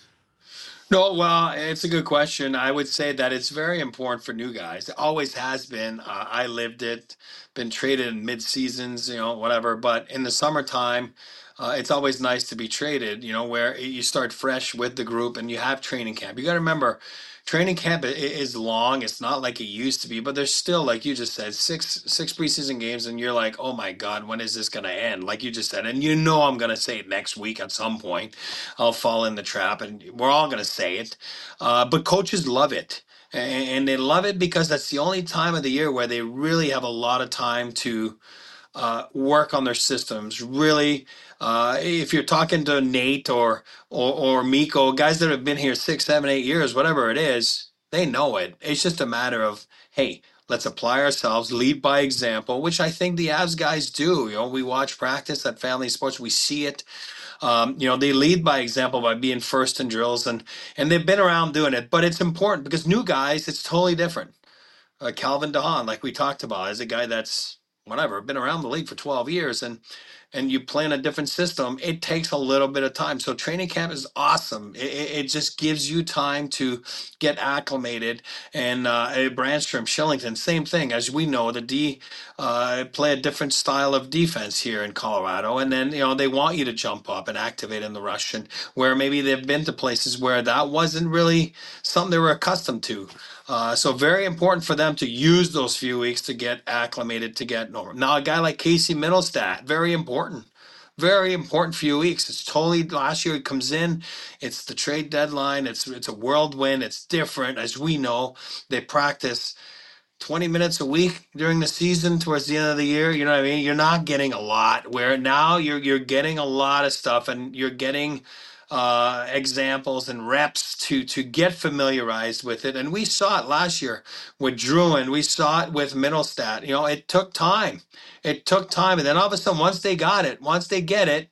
No, well, it's a good question. I would say that it's very important for new guys. It always has been. Uh, I lived it, been traded in mid seasons, you know, whatever. But in the summertime, uh, it's always nice to be traded, you know, where you start fresh with the group and you have training camp. You got to remember, training camp i- is long. It's not like it used to be, but there's still, like you just said, six six preseason games, and you're like, oh my God, when is this going to end? Like you just said, and you know I'm going to say it next week at some point. I'll fall in the trap, and we're all going to say it. Uh, but coaches love it. A- And they love it because that's the only time of the year where they really have a lot of time to uh, work on their systems. Really, uh, if you're talking to Nate or, or or Mikko, guys that have been here six, seven, eight years, whatever it is, they know it. It's just a matter of, hey, let's apply ourselves, lead by example, which I think the Avs guys do. You know, we watch practice at Family Sports, we see it. Um, you know, they lead by example by being first in drills, and and they've been around doing it. But it's important because new guys, it's totally different. Uh, Calvin DeHaan, like we talked about, is a guy that's whatever been around the league for twelve years, and and you play in a different system. It takes a little bit of time. So training camp is awesome. It, it, it just gives you time to get acclimated. And uh, Brandstrom, Shillington, same thing. As we know, the D uh, play a different style of defense here in Colorado, and then you know they want you to jump up and activate in the rush, and where maybe they've been to places where that wasn't really something they were accustomed to. Uh, so very important for them to use those few weeks to get acclimated, to get normal. Now, a guy like Casey Middlestat, very important. Very important few weeks. It's totally last year he comes in. It's the trade deadline. It's it's a whirlwind. It's different. As we know, they practice twenty minutes a week during the season towards the end of the year. You know what I mean? You're not getting a lot, where now you're you're getting a lot of stuff, and you're getting uh, examples and reps to to get familiarized with it. And we saw it last year with Druin. We saw it with Middlestat. You know, it took time. It took time. And then all of a sudden, once they got it, once they get it,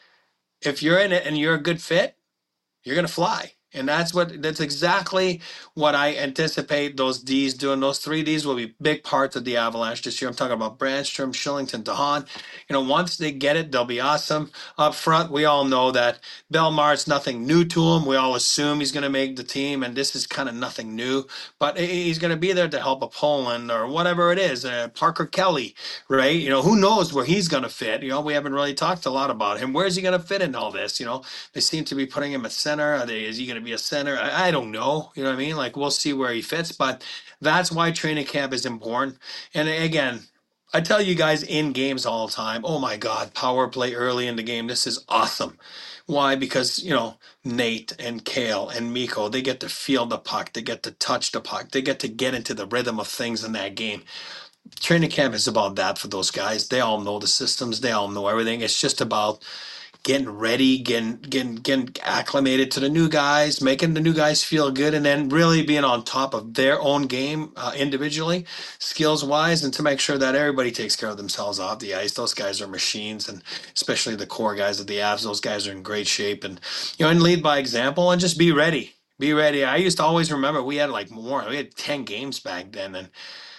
if you're in it and you're a good fit, you're going to fly. And that's what that's exactly what I anticipate those Ds doing. Those three Ds will be big parts of the Avalanche this year. I'm talking about Brandstrom, Shillington, DeHaan. You know, once they get it, they'll be awesome. Up front, we all know that Belmar's nothing new to him. We all assume he's going to make the team, and this is kind of nothing new. But he's going to be there to help a Poland or whatever it is. Uh, Parker Kelly, right? You know, who knows where he's going to fit? You know, we haven't really talked a lot about him. Where's he going to fit in all this? You know, they seem to be putting him at center. Are they? Is he going to be a center? I, I don't know. You know what I mean? Like, we'll see where he fits, but that's why training camp is important. And again, I tell you guys in games all the time, oh my God, power play early in the game. This is awesome. Why? Because, you know, Nate and Kale and Mikko, they get to feel the puck. They get to touch the puck. They get to get into the rhythm of things in that game. Training camp is about that for those guys. They all know the systems. They all know everything. It's just about getting ready, getting getting getting acclimated to the new guys, making the new guys feel good, and then really being on top of their own game uh, individually, skills wise, and to make sure that everybody takes care of themselves off the ice. Those guys are machines, and especially the core guys of the Avs. Those guys are in great shape, and you know, and lead by example, and just be ready. Be ready. I used to always remember we had like more. We had ten games back then, and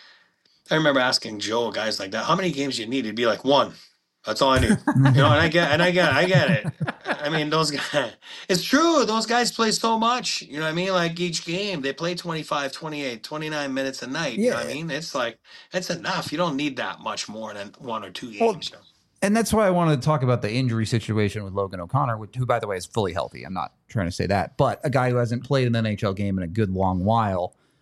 I remember asking Joe, guys like that, how many games you need? He'd be like, one. That's all I need. You know, and I get and I get I get it. I mean, those guys, it's true. Those guys play so much. You know what I mean? Like each game, they play twenty-five, twenty-eight, twenty-nine minutes a night. You know what I mean? It's like, it's enough. You don't need that much more than one or two games. Well, you know? And that's why I wanted to talk about the injury situation with Logan O'Connor, who, by the way, is fully healthy. I'm not trying to say that. But a guy who hasn't played an N H L game in a good long while.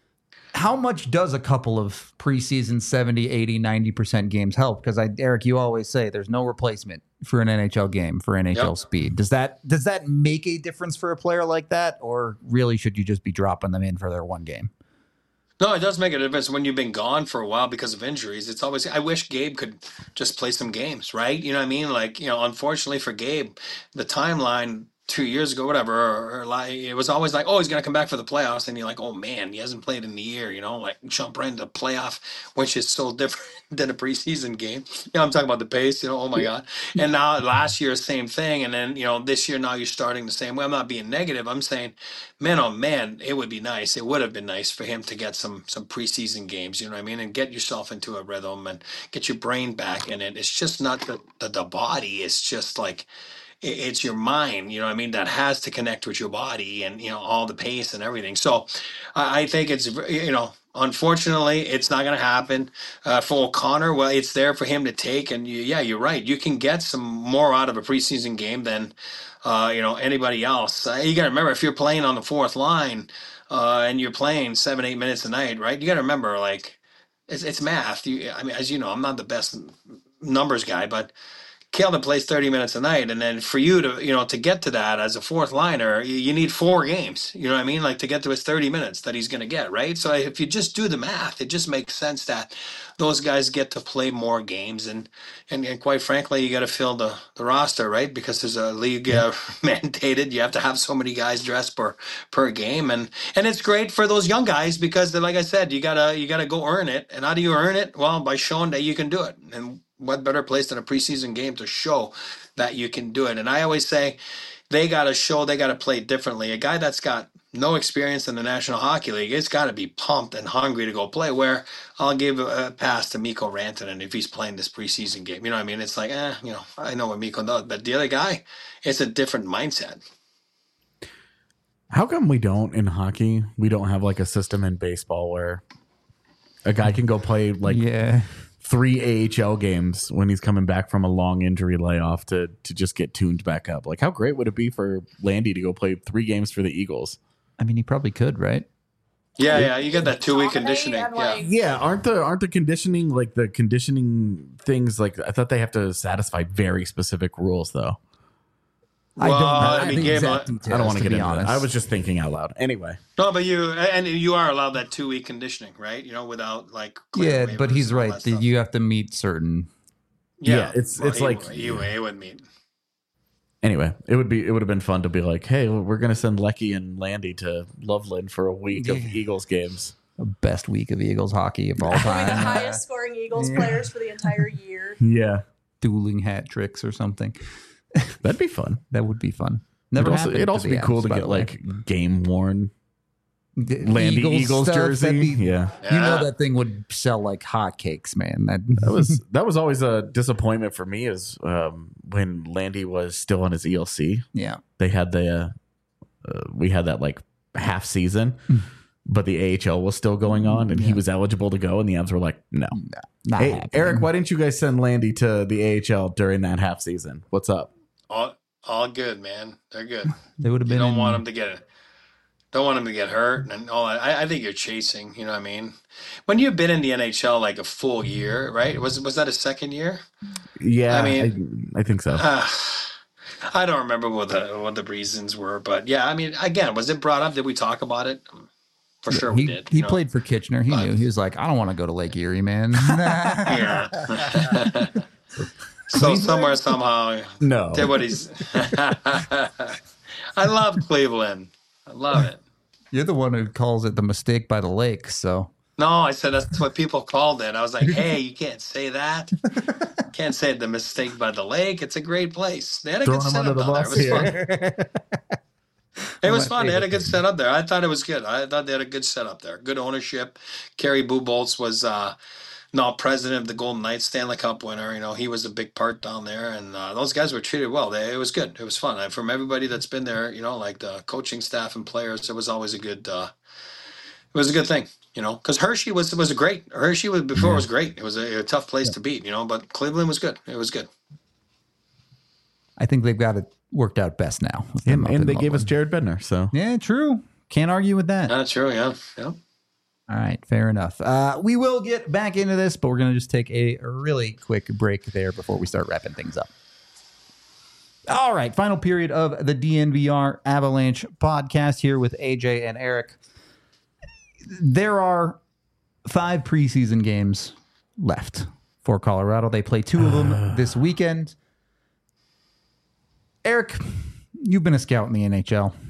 how much does a couple of preseason seventy, eighty, ninety percent games help? Because I, Eric, you always say there's no replacement for an N H L game for N H L Yep. speed. Does that does that make a difference for a player like that, or really should you just be dropping them in for their one game? No, it does make a difference when you've been gone for a while because of injuries. It's always, I wish Gabe could just play some games, right? You know what I mean? Like, you know, unfortunately for Gabe, the timeline two years ago, whatever, or, or like, it was always like, oh, he's going to come back for the playoffs. And you're like, oh man, he hasn't played in the year, you know, like jump right into playoff, which is so different than a preseason game. You know, I'm talking about the pace, you know, oh my God. And now last year, same thing. And then, you know, this year, now you're starting the same way. I'm not being negative. I'm saying, man, oh man, it would be nice. It would have been nice for him to get some, some preseason games, you know what I mean? And get yourself into a rhythm and get your brain back in it. It's just not the, the, the body. It's just like, it's your mind, you know what I mean, that has to connect with your body and, you know, all the pace and everything. So I I think it's, you know, unfortunately, it's not going to happen uh, for O'Connor. Well, it's there for him to take. And you, yeah, you're right. You can get some more out of a preseason game than, uh, you know, anybody else. Uh, you got to remember, if you're playing on the fourth line uh, and you're playing seven, eight minutes a night, right? You got to remember, like, it's, it's math. You, I mean, as you know, I'm not the best numbers guy, but Calvin plays thirty minutes a night, and then for you to, you know, to get to that as a fourth liner, you, you need four games. You know what I mean? Like to get to his thirty minutes that he's going to get, right? So if you just do the math, it just makes sense that those guys get to play more games, and and, and quite frankly, you got to fill the, the roster, right? Because there's a league uh, mandated. You have to have so many guys dressed per per game, and and it's great for those young guys because, like I said, you gotta you gotta go earn it. And how do you earn it? Well, by showing that you can do it. And what better place than a preseason game to show that you can do it? And I always say they got to show, they got to play differently. A guy that's got no experience in the National Hockey League, it's got to be pumped and hungry to go play, where I'll give a pass to Mikko Rantanen if he's playing this preseason game. You know what I mean? It's like, eh, you know, I know what Mikko does, but the other guy, it's a different mindset. How come we don't in hockey? We don't have like a system in baseball where a guy can go play like Yeah. three A H L games when he's coming back from a long injury layoff to to just get tuned back up. Like, how great would it be for Landy to go play three games for the Eagles? I mean, he probably could, right? Yeah, yeah, you get that two week Dominate conditioning. and, Yeah. like, Yeah, aren't the aren't the conditioning like the conditioning things like I thought they have to satisfy very specific rules though. Well, I I mean, the Gabe, exact I- details, I don't want to to get be into honest. that. I was just thinking out loud. Anyway, No, but you and you are allowed that two week conditioning, right? You know, without like clear yeah, but waivers he's and all right. that that stuff. You have to meet certain. Yeah, it's- it's he like- would- he, would- he would meet. anyway, it would be it would have been fun to be like, hey, we're gonna send Lecky and Landy to Loveland for a week of Eagles games. The best week of Eagles hockey of all We're the time. highest scoring Eagles players for the entire year. Yeah, Dueling hat tricks or something. that'd be fun. That would be fun. It'd Never also, happened it'd to also the be cool Avs, to by get the way. like game worn The Landy Eagles, stuff, jersey. that'd be- Yeah. You know Yeah. that thing would sell like hotcakes, man. That, That was that was always a disappointment for me is um, when Landy was still on his E L C. yeah. They had the uh, uh, we had that like half season, but the A H L was still going on, and he Yeah. was eligible to go, and the Avs were like, no. Not Hey, happening. Eric, why didn't you guys send Landy to the A H L during that half season? What's up? All, all good, man. They're good. They would have You been. don't in- want them to get don't want them to get hurt and all that. I, I think you're chasing. You know what I mean? When you've been in the N H L like a full year, right? Was was that a second year? Yeah, I I mean- I, think so. Uh, I don't remember what the what the reasons were, but yeah, I mean, again, was it brought up? Did we talk about it? For sure, he we did. he you know? played for Kitchener. He But- knew. He was like, I don't want to go to Lake Erie, man. Yeah. So somewhere somehow No. did what he's. I love Cleveland. I love it. You're the one who calls it the mistake by the lake. So No, I said that's what people called it. I was like, hey, you can't say that. Can't say the mistake by the lake. It's a great place. They had a Throwing good him under setup the down bus there. It was here. fun. It was My fun. They had a favorite good setup there. I thought it was good. I thought they had a good setup there. Good ownership. Kerry Bubolz was uh, now president of the Golden Knights, Stanley Cup winner. You know, he was a big part down there, and uh, those guys were treated well. They, it was good. It was fun. And from everybody that's been there, you know, like the coaching staff and players, it was always a good. Uh, it was a good thing, you know, because Hershey was was a great. Hershey was before was great. It was a, a tough place to beat, you know, but Cleveland was good. It was good. I think they've got it worked out best now. with them and up and in they gave us Loveland. Jared Bednar, so Yeah, true. Can't argue with that. That's true. Yeah. Yeah. All right, fair enough. Uh, we will get back into this, but we're going to just take a really quick break there before we start wrapping things up. All right, final period of the D N V R Avalanche podcast here with A J and Eric. There are five preseason games left for Colorado. They play two of them this weekend. Eric, you've been a scout in the N H L.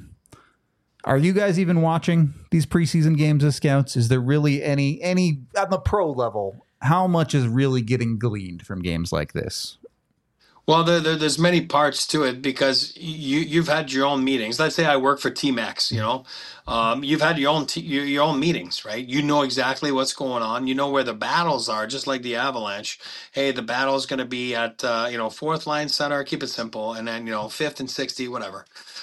Are you guys even watching these preseason games as scouts? Is there really any, any on the pro level, how much is really getting gleaned from games like this? Well, there, there, there's many parts to it because you you've had your own meetings. Let's say I work for Team X, you know, um, you've had your own t- your, your own meetings, right? You know exactly what's going on. You know where the battles are, just like the Avalanche. Hey, the battle is going to be at uh, you know fourth line center. Keep it simple, and then you know fifth and sixty, whatever.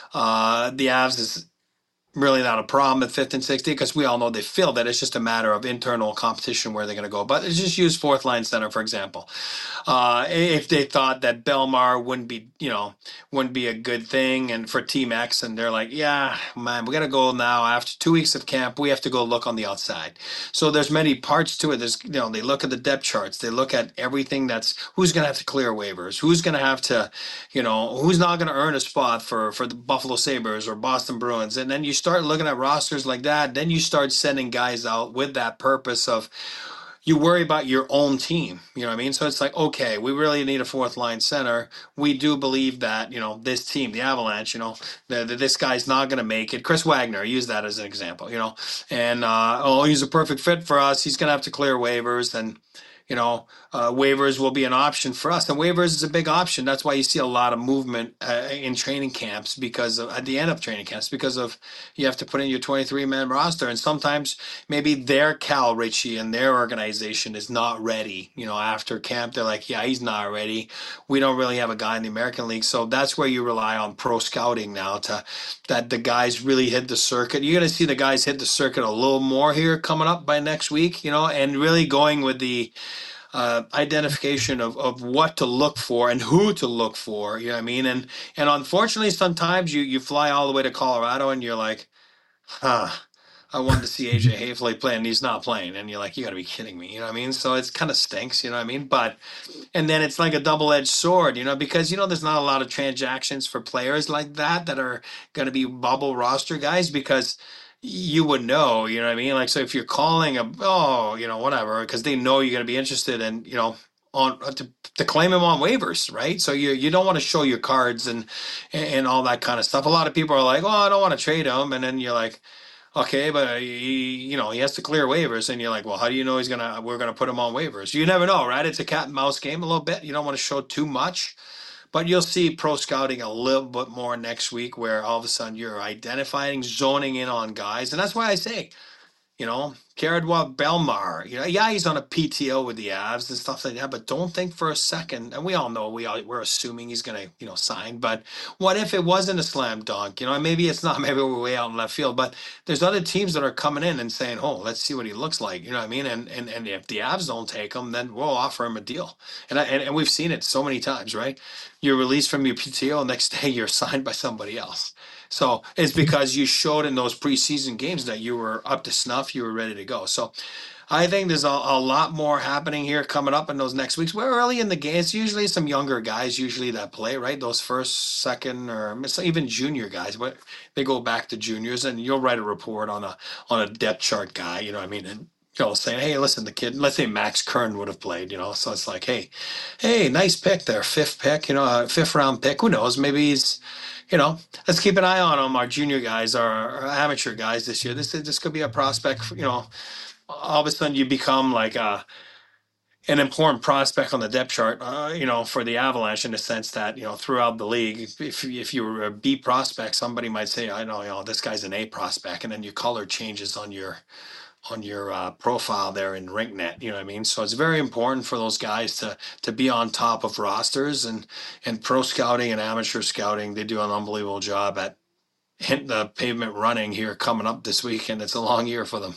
Uh, the Avs is really not a problem at fifth and sixty because we all know they feel that it's just a matter of internal competition where they're going to go. But let's just use fourth line center, for example. Uh, if they thought that Belmar wouldn't be, you know, wouldn't be a good thing and for Team X, and they're like, yeah, man, we got to go now after two weeks of camp. We have to go look on the outside. So there's many parts to it. There's, you know, they look at the depth charts. They look at everything that's who's going to have to clear waivers, who's going to have to, you know, who's not going to earn a spot for, for the Buffalo Sabres or Boston Bruins. And then you start looking at rosters like that. Then you start sending guys out with that purpose of, you worry about your own team, you know what I mean? So it's like, okay, we really need a fourth line center. We do believe that, you know, this team, the Avalanche, you know, the, the, this guy's not going to make it. Chris Wagner, I use that as an example, you know, and, uh, oh, he's a perfect fit for us. He's going to have to clear waivers, and, you know, uh, waivers will be an option for us. And waivers is a big option. That's why you see a lot of movement uh, in training camps because of, at the end of training camps, because of you have to put in your twenty-three man roster. And sometimes maybe their Cal Ritchie and their organization is not ready. You know, after camp, they're like, yeah, he's not ready. We don't really have a guy in the American League. So that's where you rely on pro scouting now to that the guys really hit the circuit. You're going to see the guys hit the circuit a little more here coming up by next week, you know, and really going with the Uh, identification of, of what to look for and who to look for, you know what I mean? And and unfortunately, sometimes you, you fly all the way to Colorado and you're like, huh, I wanted to see A J Haefele play and he's not playing. And you're like, you got to be kidding me, you know what I mean? So it's kind of stinks, you know what I mean? But, and then it's like a double-edged sword, you know, because, you know, there's not a lot of transactions for players like that that are going to be bubble roster guys because you would know, you know what I mean? Like, so if you're calling a, oh, you know, whatever, because they know you're going to be interested in, you know, on to, to claim him on waivers, right? So you you don't want to show your cards and and all that kind of stuff. A lot of people are like, oh, I don't want to trade him. And then you're like, okay, but he, you know, he has to clear waivers. And you're like, well, how do you know he's going to, we're going to put him on waivers? You never know, right? It's a cat and mouse game a little bit. You don't want to show too much. But you'll see pro scouting a little bit more next week where all of a sudden you're identifying, zoning in on guys. And that's why I say, you know, Kieran Belmar, you know, yeah, he's on a P T O with the Avs and stuff like that, but don't think for a second, and we all know, we all, we're assuming he's going to, you know, sign, but what if it wasn't a slam dunk? You know, maybe it's not, maybe we're way out in left field, but there's other teams that are coming in and saying, oh, let's see what he looks like, you know what I mean? And and, and if the Avs don't take him, then we'll offer him a deal. And, I, and, and we've seen it so many times, right? You're released from your P T O, next day you're signed by somebody else. So it's because you showed in those preseason games that you were up to snuff, you were ready to go. So I think there's a, a lot more happening here coming up in those next weeks. We're early in the game. It's usually some younger guys usually that play, right? Those first, second, or even junior guys. But they go back to juniors, and you'll write a report on a on a depth chart guy. You know what I mean? And you know, saying, hey, listen, the kid. Let's say Max Kern would have played. You know, so it's like, hey, hey, nice pick there, fifth pick. You know, a fifth round pick. Who knows? Maybe he's. You know, let's keep an eye on them. Our junior guys, our, our amateur guys this year. This this could be a prospect. You know, all of a sudden you become like a, an important prospect on the depth chart. Uh, you know, for the Avalanche in the sense that you know throughout the league, if if you were a B prospect, somebody might say, I know, you know, this guy's an A prospect, and then your color changes on your on your uh, profile there in RinkNet, you know what I mean? So it's very important for those guys to to be on top of rosters, and and pro scouting and amateur scouting, they do an unbelievable job at hitting the pavement running here coming up this week, and it's a long year for them.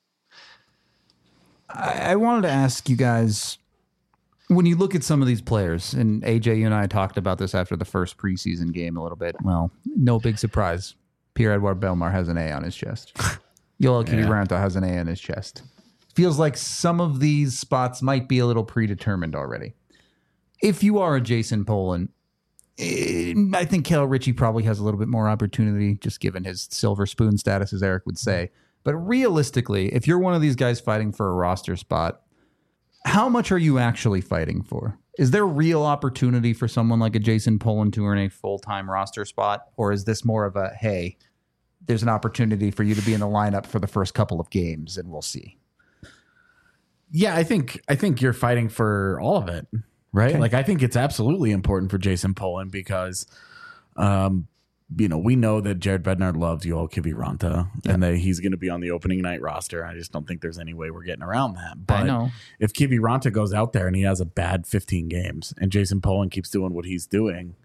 I, I wanted to ask you guys, when you look at some of these players, and A J, you and I talked about this after the first preseason game a little bit. Well, no big surprise. Pierre-Edouard Bellemare has an A on his chest. Yoel Yeah. Kiviranta has an A in his chest. Feels like some of these spots might be a little predetermined already. If you are a Jason Poland, eh, I think Cal Ritchie probably has a little bit more opportunity, just given his silver spoon status, as Eric would say. But realistically, if you're one of these guys fighting for a roster spot, how much are you actually fighting for? Is there real opportunity for someone like a Jason Poland to earn a full-time roster spot? Or is this more of a, hey, there's an opportunity for you to be in the lineup for the first couple of games and we'll see? Yeah, I think I think you're fighting for all of it, right? Okay. Like, I think it's absolutely important for Jason Poland because, um, you know, we know that Jared Bednar loves Yoel Kiviranta and that he's going to be on the opening night roster. I just don't think there's any way we're getting around that. But I know. if Kiviranta goes out there and he has a bad fifteen games and Jason Poland keeps doing what he's doing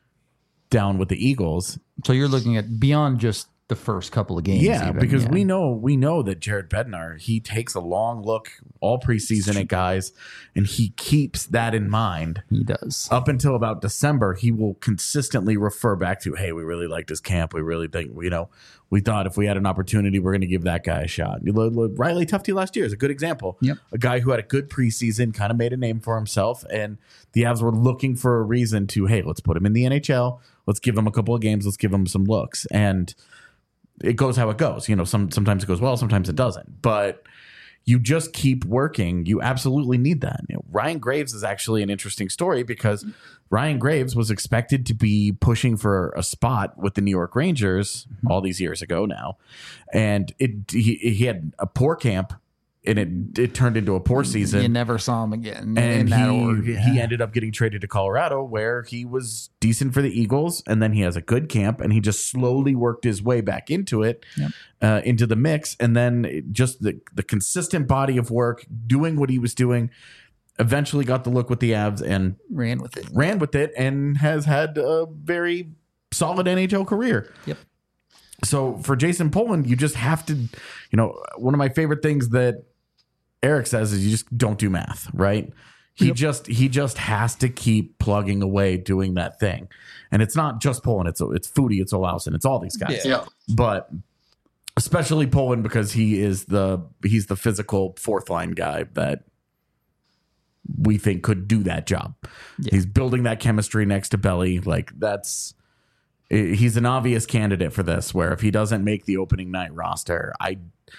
down with the Eagles, So you're looking at beyond just the first couple of games. yeah, even. because Yeah. we know we know that Jared Bednar, he takes a long look all preseason at guys, and he keeps that in mind. He does. Up until about December, he will consistently refer back to, "Hey, we really liked his camp. We really think, you know, we thought if we had an opportunity, we're going to give that guy a shot." Riley Tufte last year is a good example. Yep. A guy who had a good preseason, kind of made a name for himself, and the Avs were looking for a reason to, hey, let's put him in the N H L. Let's give him a couple of games. Let's give him some looks. And it goes how it goes. You know, some sometimes it goes well, sometimes it doesn't. But you just keep working. You absolutely need that. You know, Ryan Graves is actually an interesting story because Ryan Graves was expected to be pushing for a spot with the New York Rangers all these years ago now, and it he, he had a poor camp, and it it turned into a poor season. You never saw him again. And in that he, org. he ended up getting traded to Colorado, where he was decent for the Eagles, and then he has a good camp, and he just slowly worked his way back into it, Yep. uh, into the mix, and then it- just the the consistent body of work, doing what he was doing, eventually got the look with the Avs and ran with it. ran with it, and has had a very solid N H L career. Yep. So for Jason Poland, you just have to, you know, one of my favorite things that Eric says is you just don't do math, right? He Yep. just he just has to keep plugging away doing that thing. And it's not just Poland, it's it's Foudy, it's Olausen, it's all these guys. Yeah. But especially Poland because he is the he's the physical fourth line guy that we think could do that job. Yeah. He's building that chemistry next to Belly. Like that's he's an obvious candidate for this, where if he doesn't make the opening night roster, I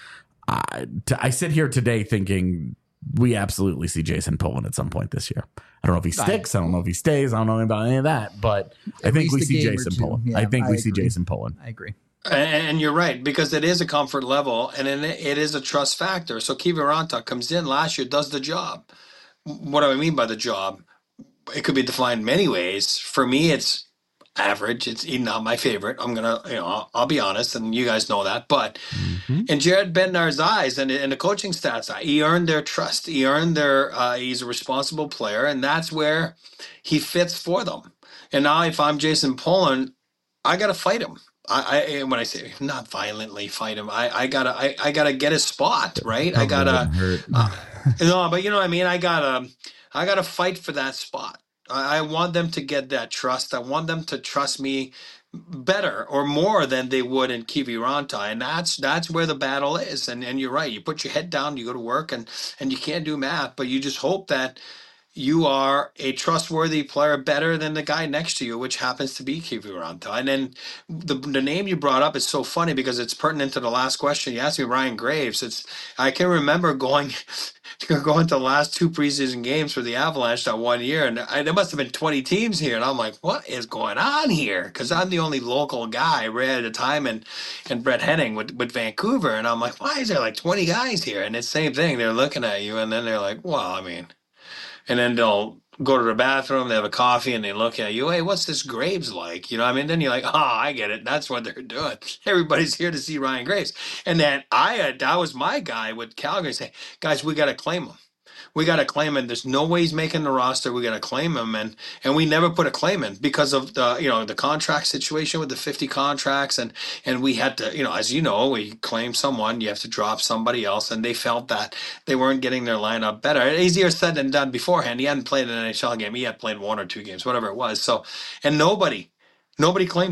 I, t- I sit here today thinking we absolutely see Jason Poland at some point this year. I don't know if he sticks. I don't know if he stays. I don't know about any of that, but I At think we least a see game or Jason two. Poland. Yeah, I think we I see agree. Jason Poland. I agree. And, and you're right, because it is a comfort level, and it, it is a trust factor. So Kiviranta comes in last year, does the job. What do I mean by the job? It could be defined many ways. For me, it's average. It's not my favorite. I'm gonna, you know, I'll, I'll be honest, and you guys know that. But in Jared Bednar's eyes and in the coaching stats, he earned their trust. He earned their. Uh, he's a responsible player, and that's where he fits for them. And now, if I'm Jason Poland, I gotta fight him. I, I when I say not violently fight him, I, I gotta I, I gotta get his spot, right? I gotta uh, no, but you know what I mean. I gotta I gotta fight for that spot. I, I want them to get that trust. I want them to trust me better or more than they would in Kiviranta, and that's that's where the battle is. And and you're right. You put your head down, you go to work, and and you can't do math, but you just hope that you are a trustworthy player better than the guy next to you, which happens to be Kiviranta. And then the the name you brought up is so funny because it's pertinent to the last question you asked me, Ryan Graves. It's I can remember going going to the last two preseason games for the Avalanche that one year, and I, there must have been twenty teams here, and I'm like, what is going on here? Because I'm the only local guy right at the time, and and Brett Henning with, with Vancouver, and I'm like, why is there like twenty guys here? And it's the same thing. They're looking at you, and then they're like, well, I mean... And then they'll go to the bathroom, they have a coffee, and they look at you. Hey, what's this Graves like? You know what I mean? Then you're like, oh, I get it. That's what they're doing. Everybody's here to see Ryan Graves. And then I, uh, that was my guy with Calgary say, guys, we got to claim him. We got to claim him. There's no way he's making the roster. We got to claim him. And and we never put a claim in because of the, you know, the contract situation with the fifty contracts. And, and we had to, you know, as you know, we claim someone, you have to drop somebody else. And they felt that they weren't getting their lineup better. Easier said than done beforehand. He hadn't played an N H L game. He had played one or two games, whatever it was. So, and nobody, nobody claimed him.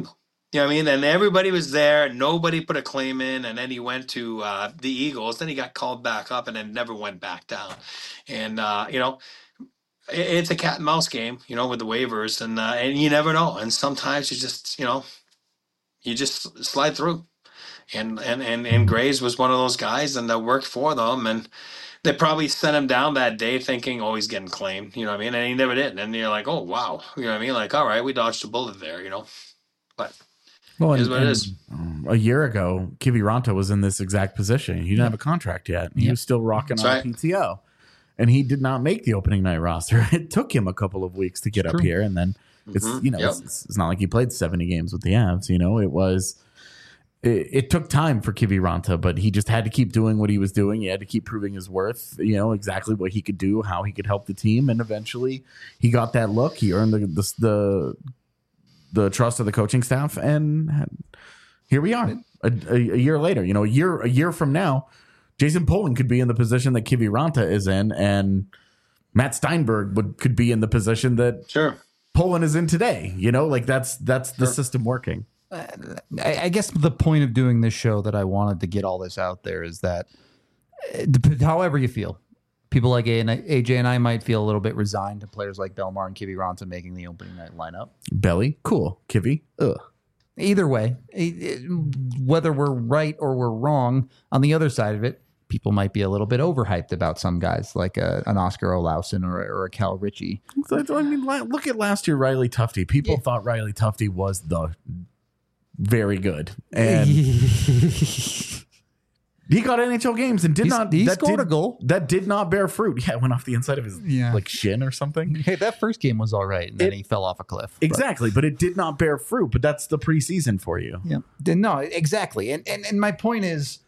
You know what I mean? And everybody was there. Nobody put a claim in. And then he went to uh, the Eagles. Then he got called back up and then never went back down. And, uh, you know, it, it's a cat and mouse game, you know, with the waivers. And, uh, and you never know. And sometimes you just, you know, you just slide through. And, and, and, and Graves was one of those guys, and that worked for them. And they probably sent him down that day thinking, oh, he's getting claimed. You know what I mean? And he never did. And you're like, oh, wow. You know what I mean? Like, all right, we dodged a bullet there, you know? But Well, it and, is what it and, is. um, a year ago, Kiviranta was in this exact position. He didn't have a contract yet. He Yeah. was still rocking That's on right. P T O. And he did not make the opening night roster. It took him a couple of weeks to get up true. here. And then it's, Mhm. you know, Yep. it's, it's not like he played seventy games with the Avs. You know, it was, it, it took time for Kiviranta, but he just had to keep doing what he was doing. He had to keep proving his worth, you know, exactly what he could do, how he could help the team. And eventually he got that look. He earned the, the, the, the trust of the coaching staff. And here we are a, a, a year later. You know, a year, a year from now, Jason Poling could be in the position that Kiviranta is in, and Matt Steinberg would could be in the position that Sure. Poland is in today. You know, like that's that's the Sure. system working. I, I guess the point of doing this show that I wanted to get all this out there is that, uh, dep- however you feel, people like A, and I, A J and I might feel a little bit resigned to players like Belmar and Kiviranta making the opening night lineup. Belly, cool. Kivy, ugh. Either way, it- it- whether we're right or we're wrong, on the other side of it, people might be a little bit overhyped about some guys like a, an Oscar Olausen or, or a Cal Ritchie. So, I mean, la- look at last year, Riley Tufte. People Yeah. thought Riley Tufte was the very good, and he got N H L games and did He's- not. he that scored did- a goal. that did not bear fruit. Yeah, it went off the inside of his Yeah. like shin or something. Hey, that first game was all right, and then It- he fell off a cliff. But- Exactly, but it did not bear fruit. But that's the preseason for you. Yeah. Then No, exactly. And, and and my point is,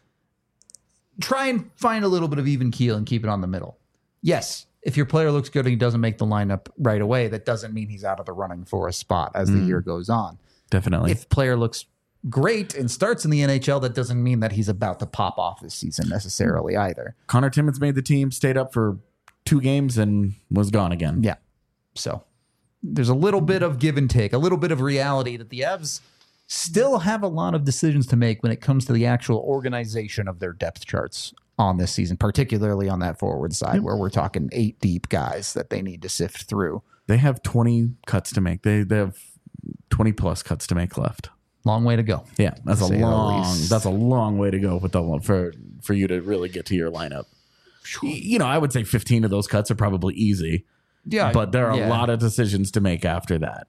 try and find a little bit of even keel and keep it on the middle. Yes, if your player looks good and he doesn't make the lineup right away, that doesn't mean he's out of the running for a spot as the year goes on. Definitely. If player looks great and starts in the N H L, that doesn't mean that he's about to pop off this season necessarily either. Connor Timmins made the team, stayed up for two games, and was gone again. Yeah. So there's a little bit of give and take, a little bit of reality that the Evs still have a lot of decisions to make when it comes to the actual organization of their depth charts on this season, particularly on that forward side where we're talking eight deep guys that they need to sift through. They have twenty cuts to make. They they have twenty plus cuts to make left. Long way to go. Yeah, that's To a say the long least. that's a long way to go with the for for you to really get to your lineup. Y- You know, I would say fifteen of those cuts are probably easy, Yeah. but there are yeah. a lot of decisions to make after that.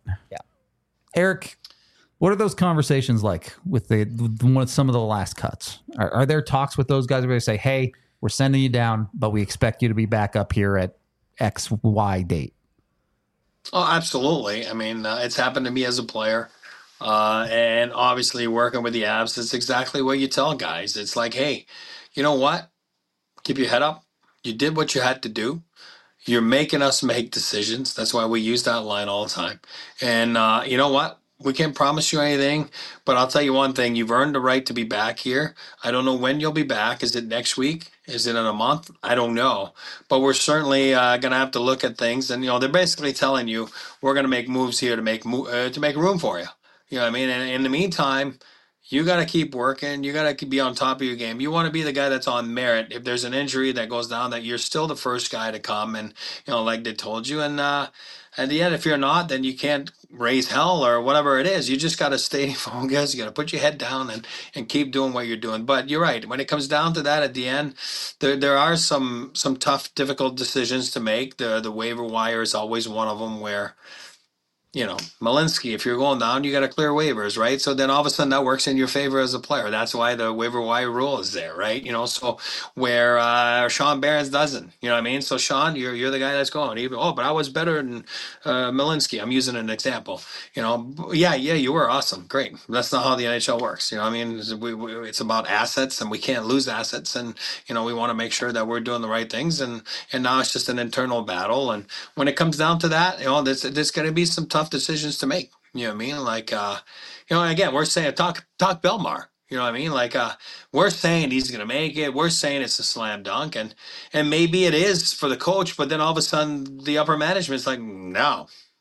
Eric, what are those conversations like with the with some of the last cuts? Are, are there talks with those guys where they say, "Hey, we're sending you down, but we expect you to be back up here at X Y date"? Oh, absolutely. I mean, uh, it's happened to me as a player. Uh, and obviously, working with the Avs, it's exactly what you tell guys. It's like, hey, you know what? Keep your head up. You did what you had to do. You're making us make decisions. That's why we use that line all the time. And uh, you know what? We can't promise you anything, but I'll tell you one thing. You've earned the right to be back here. I don't know when you'll be back. Is it next week? Is it in a month? I don't know. But we're certainly uh, going to have to look at things. And, you know, they're basically telling you we're going to make moves here to make mo- uh, to make room for you. You know what I mean? And in the meantime, you got to keep working. You got to be on top of your game. You want to be the guy that's on merit. If there's an injury that goes down, that you're still the first guy to come. And, you know, like they told you. And uh, at the end, if you're not, then you can't raise hell or whatever it is. You just got to stay focused. You got to put your head down and, and keep doing what you're doing. But you're right. When it comes down to that at the end, there there are some some tough, difficult decisions to make. The, the waiver wire is always one of them where, you know, Malinsky, if you're going down, you got to clear waivers, right? So then all of a sudden that works in your favor as a player. That's why the waiver wire rule is there, right? You know, so where uh, Sean Barons doesn't, you know what I mean? So Sean, you're you're the guy that's going. Even, oh, but I was better than uh, Malinsky. I'm using an example. You know, yeah, yeah, you were awesome, great. That's not how the N H L works. You know, what I mean, it's, we, we, it's about assets, and we can't lose assets, and you know, we want to make sure that we're doing the right things. And and now it's just an internal battle. And when it comes down to that, you know, there's there's going to be some tough decisions to make. You know what I mean? Like, uh, you know, and again, we're saying talk talk Belmar. You know what I mean? Like, uh, we're saying he's going to make it. We're saying it's a slam dunk, and and maybe it is for the coach. But then all of a sudden, the upper management's like, no,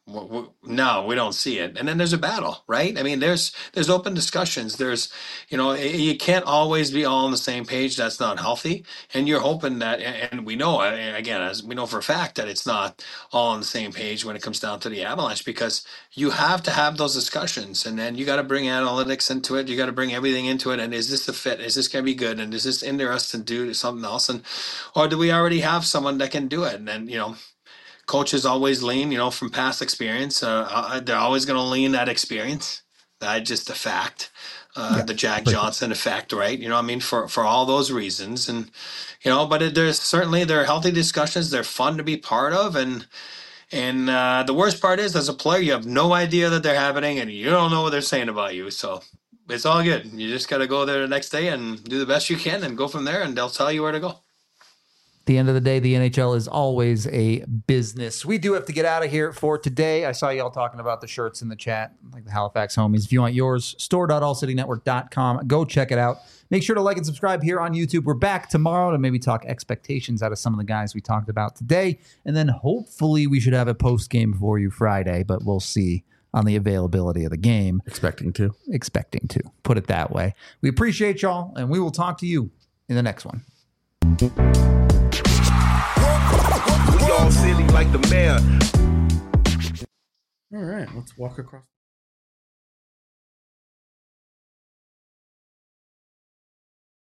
W- w- No, we don't see it. And then there's a battle, right? I mean, there's there's open discussions. There's, you know, y- you can't always be all on the same page. That's not healthy. And you're hoping that, a- and we know, uh, again, as we know for a fact that it's not all on the same page when it comes down to the Avalanche, because you have to have those discussions, and then you got to bring analytics into it. You got to bring everything into it. And is this the fit? Is this going to be good? And is this interesting to do something else? And or do we already have someone that can do it? And then, you know, coaches always lean, you know, from past experience. Uh, uh, they're always going to lean that experience. That's just a fact. Uh, Yeah, the Jack for sure. Johnson effect, right? You know, what I mean, for for all those reasons, and you know, but it, there's certainly there are healthy discussions. They're fun to be part of, and and uh, the worst part is, as a player, you have no idea that they're happening, and you don't know what they're saying about you. So it's all good. You just got to go there the next day and do the best you can, and go from there, and they'll tell you where to go. At the end of the day, the N H L is always a business. We do have to get out of here for today. I saw y'all talking about the shirts in the chat, like the Halifax homies. If you want yours, store dot all city network dot com. Go check it out. Make sure to like and subscribe here on YouTube. We're back tomorrow to maybe talk expectations out of some of the guys we talked about today. And then hopefully we should have a post game for you Friday, but we'll see on the availability of the game. Expecting to. Expecting to, put it that way. We appreciate y'all, and we will talk to you in the next one. We all silly like the mayor. All right, let's walk across.